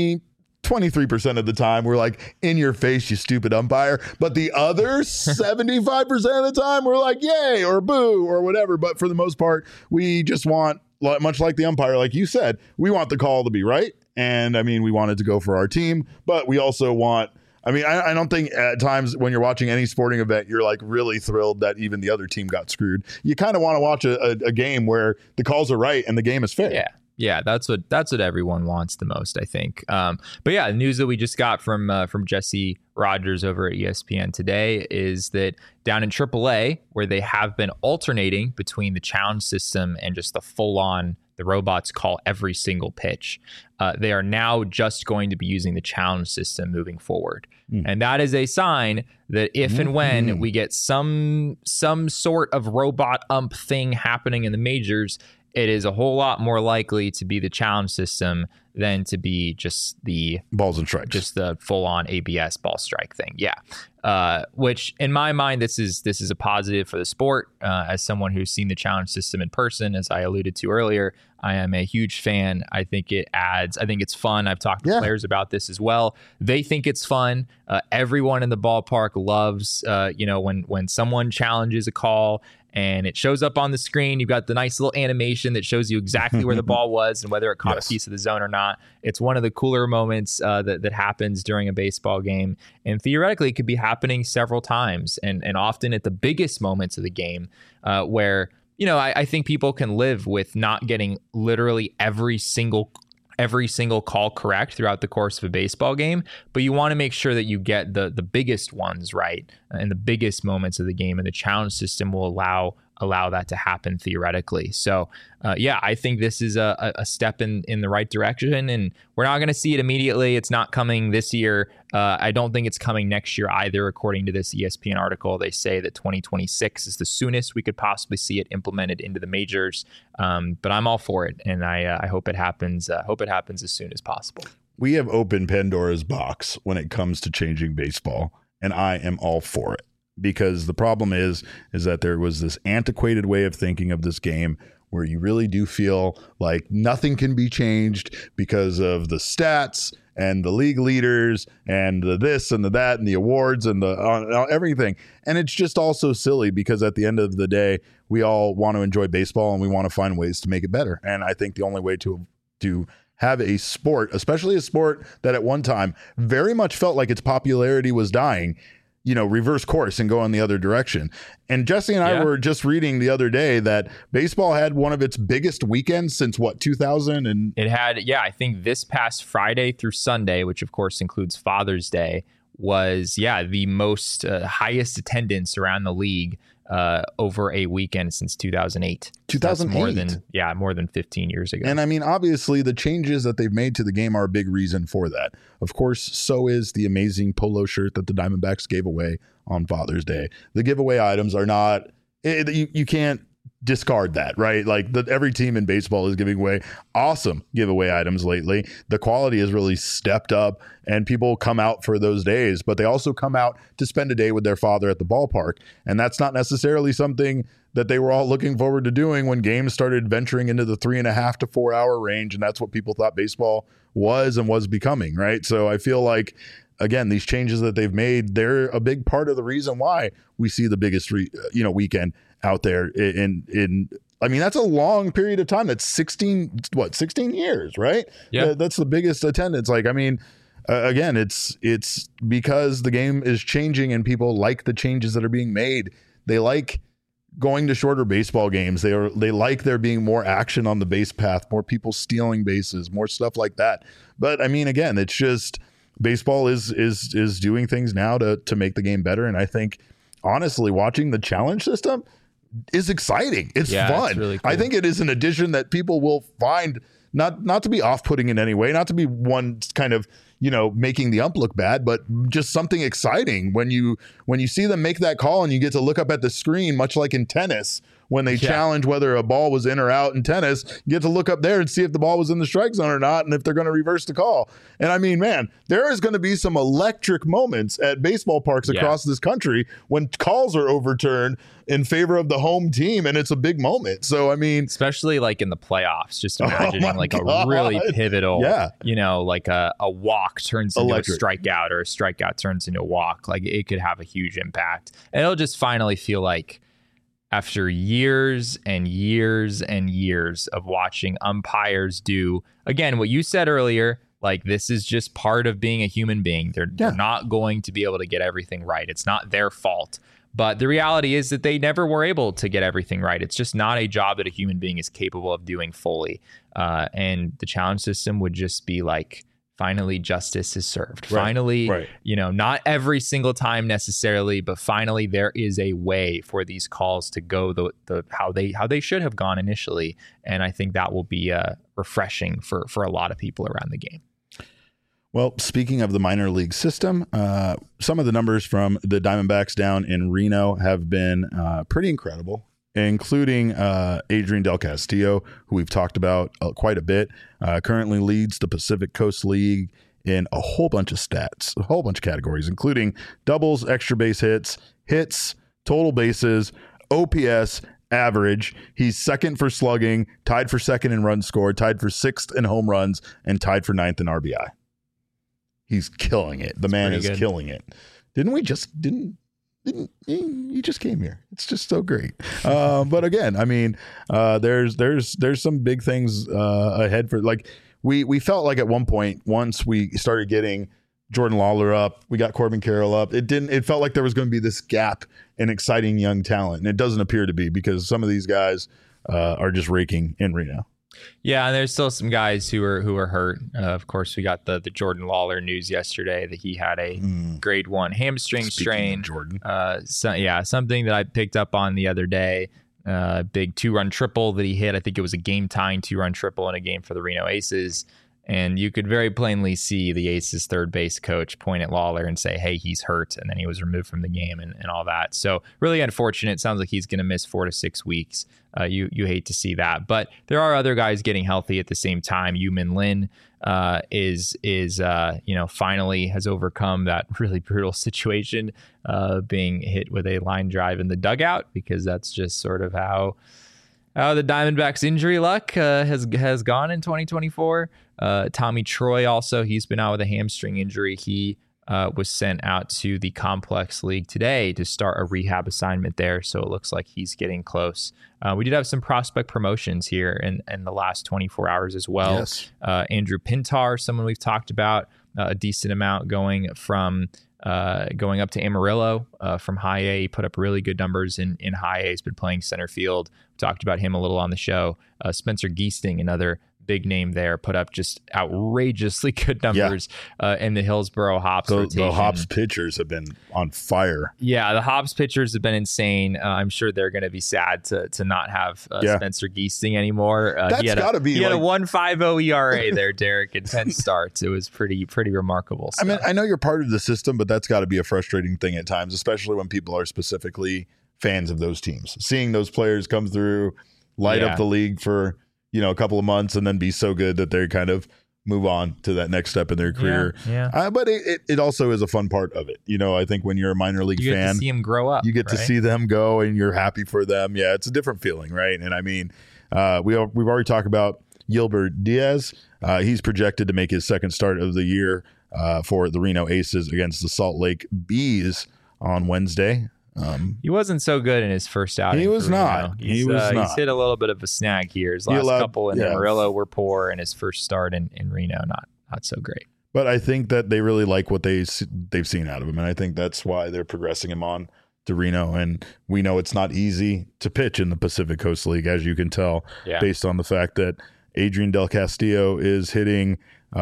A: 23% of the time we're like, in your face, you stupid umpire. But the other 75% of the time we're like, yay or boo or whatever. But for the most part, we just want, much like the umpire, like you said, we want the call to be right. And I mean, we want it to go for our team, but we also want, I don't think at times when you're watching any sporting event, you're like really thrilled that even the other team got screwed. You kind of want to watch a game where the calls are right and the game is fair.
B: Yeah, that's what everyone wants the most, I think. But yeah, the news that we just got from Jesse Rogers over at ESPN today is that down in AAA, where they have been alternating between the challenge system and just the robots call every single pitch, they are now just going to be using the challenge system moving forward. And that is a sign that if and when we get some sort of robot ump thing happening in the majors, it is a whole lot more likely to be the challenge system than to be just the
A: balls and strikes,
B: just the full-on ABS ball strike thing. Yeah, which in my mind, this is a positive for the sport. As someone who's seen the challenge system in person, as I alluded to earlier, I am a huge fan. I think it adds. I think it's fun. I've talked to players about this as well. They think it's fun. Everyone in the ballpark loves, when someone challenges a call and it shows up on the screen. You've got the nice little animation that shows you exactly where the ball was and whether it caught a piece of the zone or not. It's one of the cooler moments that happens during a baseball game. And theoretically, it could be happening several times and often at the biggest moments of the game where, I think people can live with not getting literally every single call correct throughout the course of a baseball game, but you want to make sure that you get the biggest ones right in the biggest moments of the game, and the challenge system will allow that to happen theoretically. So I think this is a step in the right direction, and we're not going to see it immediately. It's not coming this year. I don't think it's coming next year either. According to this ESPN article, they say that 2026 is the soonest we could possibly see it implemented into the majors. But I'm all for it, and I hope it happens. Hope it happens as soon as possible.
A: We have opened Pandora's box when it comes to changing baseball, and I am all for it. Because the problem is that there was this antiquated way of thinking of this game where you really do feel like nothing can be changed because of the stats and the league leaders and the this and the that and the awards and the everything. And it's just all so silly because at the end of the day, we all want to enjoy baseball and we want to find ways to make it better. And I think the only way to have a sport, especially a sport that at one time very much felt like its popularity was dying, reverse course and go in the other direction. And Jesse and I were just reading the other day that baseball had one of its biggest weekends since 2000. And
B: it had, I think this past Friday through Sunday, which of course includes Father's Day, was the most highest attendance around the league over a weekend since 2008.
A: 2008.
B: More than 15 years ago.
A: And I mean, obviously the changes that they've made to the game are a big reason for that. Of course, so is the amazing polo shirt that the Diamondbacks gave away on Father's Day. The giveaway items are not, you can't discard that, right? Like every team in baseball is giving away awesome giveaway items lately. The quality has really stepped up and people come out for those days, but they also come out to spend a day with their father at the ballpark. And that's not necessarily something that they were all looking forward to doing when games started venturing into the 3.5 to 4 hour range. And that's what people thought baseball was and was becoming, right? So I feel like, again, these changes that they've made, they're a big part of the reason why we see the biggest weekend out there in I mean, that's a long period of time. That's 16 years, right?
B: Yeah.
A: That's the biggest attendance. Like, I mean, again, it's because the game is changing and people like the changes that are being made. They like going to shorter baseball games. They like there being more action on the base path, more people stealing bases, more stuff like that. But I mean, again, it's just baseball is doing things now to make the game better. And I think, honestly, watching the challenge system is exciting. It's fun.
B: It's really cool.
A: I think it is an addition that people will find not to be off-putting in any way, not to be one kind of, making the ump look bad, but just something exciting when you see them make that call and you get to look up at the screen, much like in tennis, when they challenge whether a ball was in or out in tennis, you get to look up there and see if the ball was in the strike zone or not, and if they're going to reverse the call. And I mean, man, there is going to be some electric moments at baseball parks across this country when calls are overturned in favor of the home team, and it's a big moment. So, I mean,
B: especially like in the playoffs, just imagining a really pivotal, like a walk turns into a strikeout or a strikeout turns into a walk. Like, it could have a huge impact. And it'll just finally feel like, after years and years and years of watching umpires do, again, what you said earlier, like, this is just part of being a human being. They're not going to be able to get everything right. It's not their fault. But the reality is that they never were able to get everything right. It's just not a job that a human being is capable of doing fully. And the challenge system would just be like, finally, justice is served.
A: Right.
B: Finally, not every single time necessarily, but finally there is a way for these calls to go the how they should have gone initially. And I think that will be refreshing for a lot of people around the game.
A: Well, speaking of the minor league system, some of the numbers from the Diamondbacks down in Reno have been pretty incredible, including Adrian Del Castillo, who we've talked about quite a bit, currently leads the Pacific Coast League in a whole bunch of stats, a whole bunch of categories, including doubles, extra base hits, total bases, OPS, average. He's second for slugging, tied for second in runs scored, tied for sixth in home runs, and tied for ninth in RBI. He's killing it. The man is killing it. He just came here. It's just so great. But again, I mean, there's some big things ahead for, like, we felt like at one point, once we started getting Jordan Lawler up, we got Corbin Carroll up, it felt like there was going to be this gap in exciting young talent. And it doesn't appear to be, because some of these guys are just raking in Reno.
B: Yeah, and there's still some guys who are hurt. Of course, we got the Jordan Lawler news yesterday that he had a grade 1 hamstring strain.
A: Jordan.
B: Something that I picked up on the other day. Big 2-run triple that he hit. I think it was a game-tying 2-run triple in a game for the Reno Aces. And you could very plainly see the Aces third base coach point at Lawler and say, hey, he's hurt. And then he was removed from the game and all that. So really unfortunate. Sounds like he's going to miss 4 to 6 weeks. You hate to see that. But there are other guys getting healthy at the same time. Yu-Min Lin is finally has overcome that really brutal situation, being hit with a line drive in the dugout, because that's just sort of how the Diamondbacks injury luck has gone in 2024. Tommy Troy also, he's been out with a hamstring injury. He was sent out to the Complex League today to start a rehab assignment there. So it looks like he's getting close. We did have some prospect promotions here in the last 24 hours as well.
A: Yes.
B: Andrew Pintar, someone we've talked about a decent amount, going from going up to Amarillo from high A. He put up really good numbers in high A. He's been playing center field. We talked about him a little on the show. Spencer Giesting, another big name there, put up just outrageously good numbers in the Hillsboro Hops rotation.
A: The Hops pitchers have been on fire.
B: Yeah, the Hops pitchers have been insane. I'm sure they're going to be sad to not have Spencer Giesting anymore.
A: That's got to be.
B: He had a 1.50 ERA there, Derek, in 10 starts. It was pretty remarkable stuff.
A: I mean, I know you're part of the system, but that's got to be a frustrating thing at times, especially when people are specifically fans of those teams. Seeing those players come through, light up the league for a couple of months and then be so good that they kind of move on to that next step in their career. But it also is a fun part of it. I think when you're a minor league fan,
B: you get to see them grow up.
A: You get to see them go and you're happy for them. Yeah, it's a different feeling, right? And I mean, we've already talked about Gilbert Diaz. He's projected to make his second start of the year for the Reno Aces against the Salt Lake Bees on Wednesday.
B: He wasn't so good in his first outing.
A: He was not. He was not.
B: He's hit a little bit of a snag here. His last couple in Amarillo were poor, and his first start in Reno not so great.
A: But I think that they really like what they've seen out of him, and I think that's why they're progressing him on to Reno. And we know it's not easy to pitch in the Pacific Coast League, as you can tell, based on the fact that Adrian Del Castillo is hitting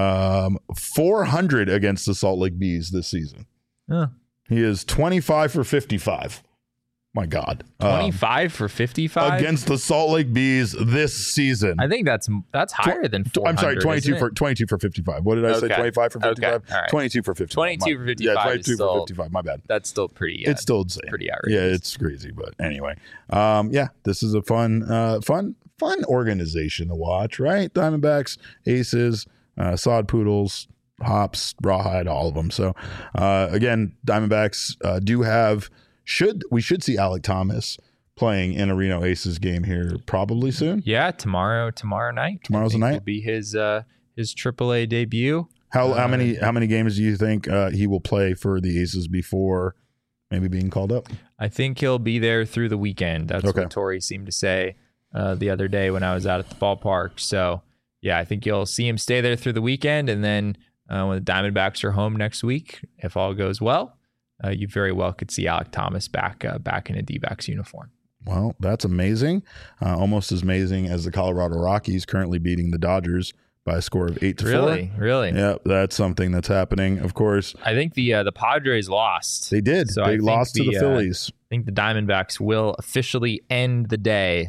A: 400 against the Salt Lake Bees this season. He is 25 for 55. My God.
B: 25 for 55?
A: Against the Salt Lake Bees this season.
B: I think that's higher than 400.
A: I'm sorry, 22 for 55. What did I say? 25 for 55?
B: Okay. Right.
A: 22 for 55.
B: 22 for 55.
A: Yeah, 22 for 55. My bad.
B: That's still pretty.
A: It's still insane.
B: Pretty outrageous.
A: Yeah, it's crazy. But anyway, this is a fun organization to watch, right? Diamondbacks, Aces, Sod Poodles, Hops, Rawhide, all of them. So again, Diamondbacks we should see Alek Thomas playing in a Reno Aces game here probably soon.
B: Yeah, tomorrow night.
A: Tomorrow's the night.
B: Will be his AAA debut.
A: How many games do you think he will play for the Aces before maybe being called up?
B: I think he'll be there through the weekend. That's what Torrey seemed to say the other day when I was out at the ballpark. So yeah, I think you'll see him stay there through the weekend, and then when the Diamondbacks are home next week, if all goes well, you very well could see Alek Thomas back in a D-backs uniform.
A: Well, that's amazing. Almost as amazing as the Colorado Rockies currently beating the Dodgers by a score of 8-4.
B: Really?
A: Yeah, that's something that's happening. Of course,
B: I think the Padres lost.
A: They did. So they lost to the Phillies.
B: I think the Diamondbacks will officially end the day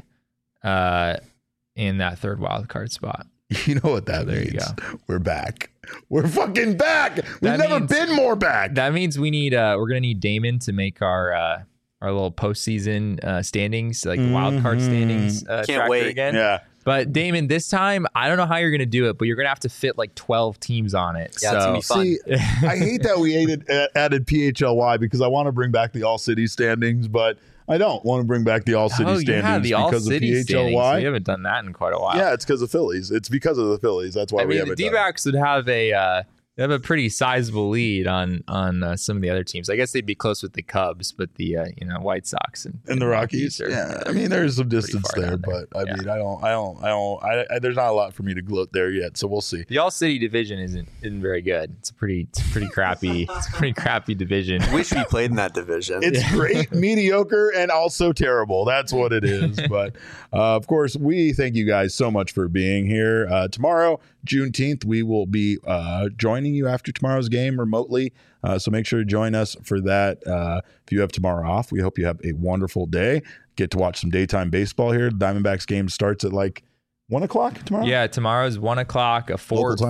B: in that third wild card spot.
A: You know what that means? We're back. We're fucking back. We've never been more back.
B: That means we're gonna need Damon to make our little postseason standings, like the wild card standings.
D: Can't wait
B: again.
A: Yeah.
B: But Damon, this time I don't know how you're gonna do it, but you're gonna have to fit like 12 teams on it.
D: Yeah, it's gonna be fun.
A: See, I hate that we added PHLY because I want to bring back the All City standings, but I don't want to bring back the All City standings because of PHLY.
B: We haven't done that in quite a while.
A: Yeah, it's because of Phillies. It's because of the Phillies. That's why we haven't done it.
B: The D-backs would have a pretty sizable lead on some of the other teams. I guess they'd be close with the Cubs, but the White Sox and
A: the Rockies. I mean, there's some distance there, but I mean, I don't. There's not a lot for me to gloat there yet, so we'll see.
B: The All City division isn't very good. It's a pretty crappy. It's a pretty crappy division.
D: Wish we played in that division.
A: It's great, mediocre, and also terrible. That's what it is. But of course, we thank you guys so much for being here. Tomorrow, Juneteenth, we will be joining you after tomorrow's game remotely. So make sure to join us for that. If you have tomorrow off, we hope you have a wonderful day. Get to watch some daytime baseball here. The Diamondbacks game starts at like 1 o'clock tomorrow?
B: Yeah, tomorrow's 1 o'clock, a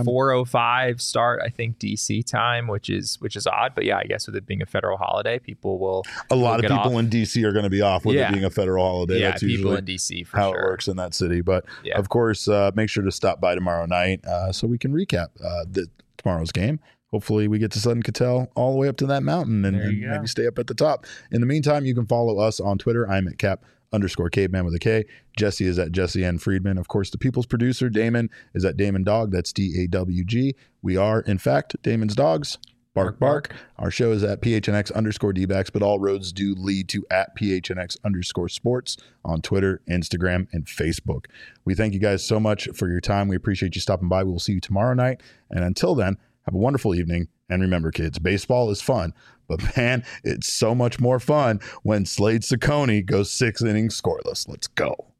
B: 4:05 start, I think, DC time, which is odd. But yeah, I guess with it being a federal holiday, people will.
A: A lot of people in DC are going to be off with it being a federal holiday.
B: Yeah,
A: that's
B: people
A: usually
B: in DC for
A: how
B: sure.
A: it works in that city. But of course, make sure to stop by tomorrow night so we can recap tomorrow's game. Hopefully we get to Sutton Cattell all the way up to that mountain and maybe stay up at the top. In the meantime, you can follow us on Twitter. I'm at Cap_caveman with a K. Jesse is at Jesse N. Friedman. Of course, the people's producer, Damon, is at Damon Dog. That's DAWG. We are, in fact, Damon's Dogs. Bark, bark. Our show is at PHNX_DBacks, but all roads do lead to at PHNX_sports on Twitter, Instagram, and Facebook. We thank you guys so much for your time. We appreciate you stopping by. We will see you tomorrow night. And until then, have a wonderful evening And remember, kids, baseball is fun, but man, it's so much more fun when Slade Cecconi goes 6 innings scoreless. Let's go.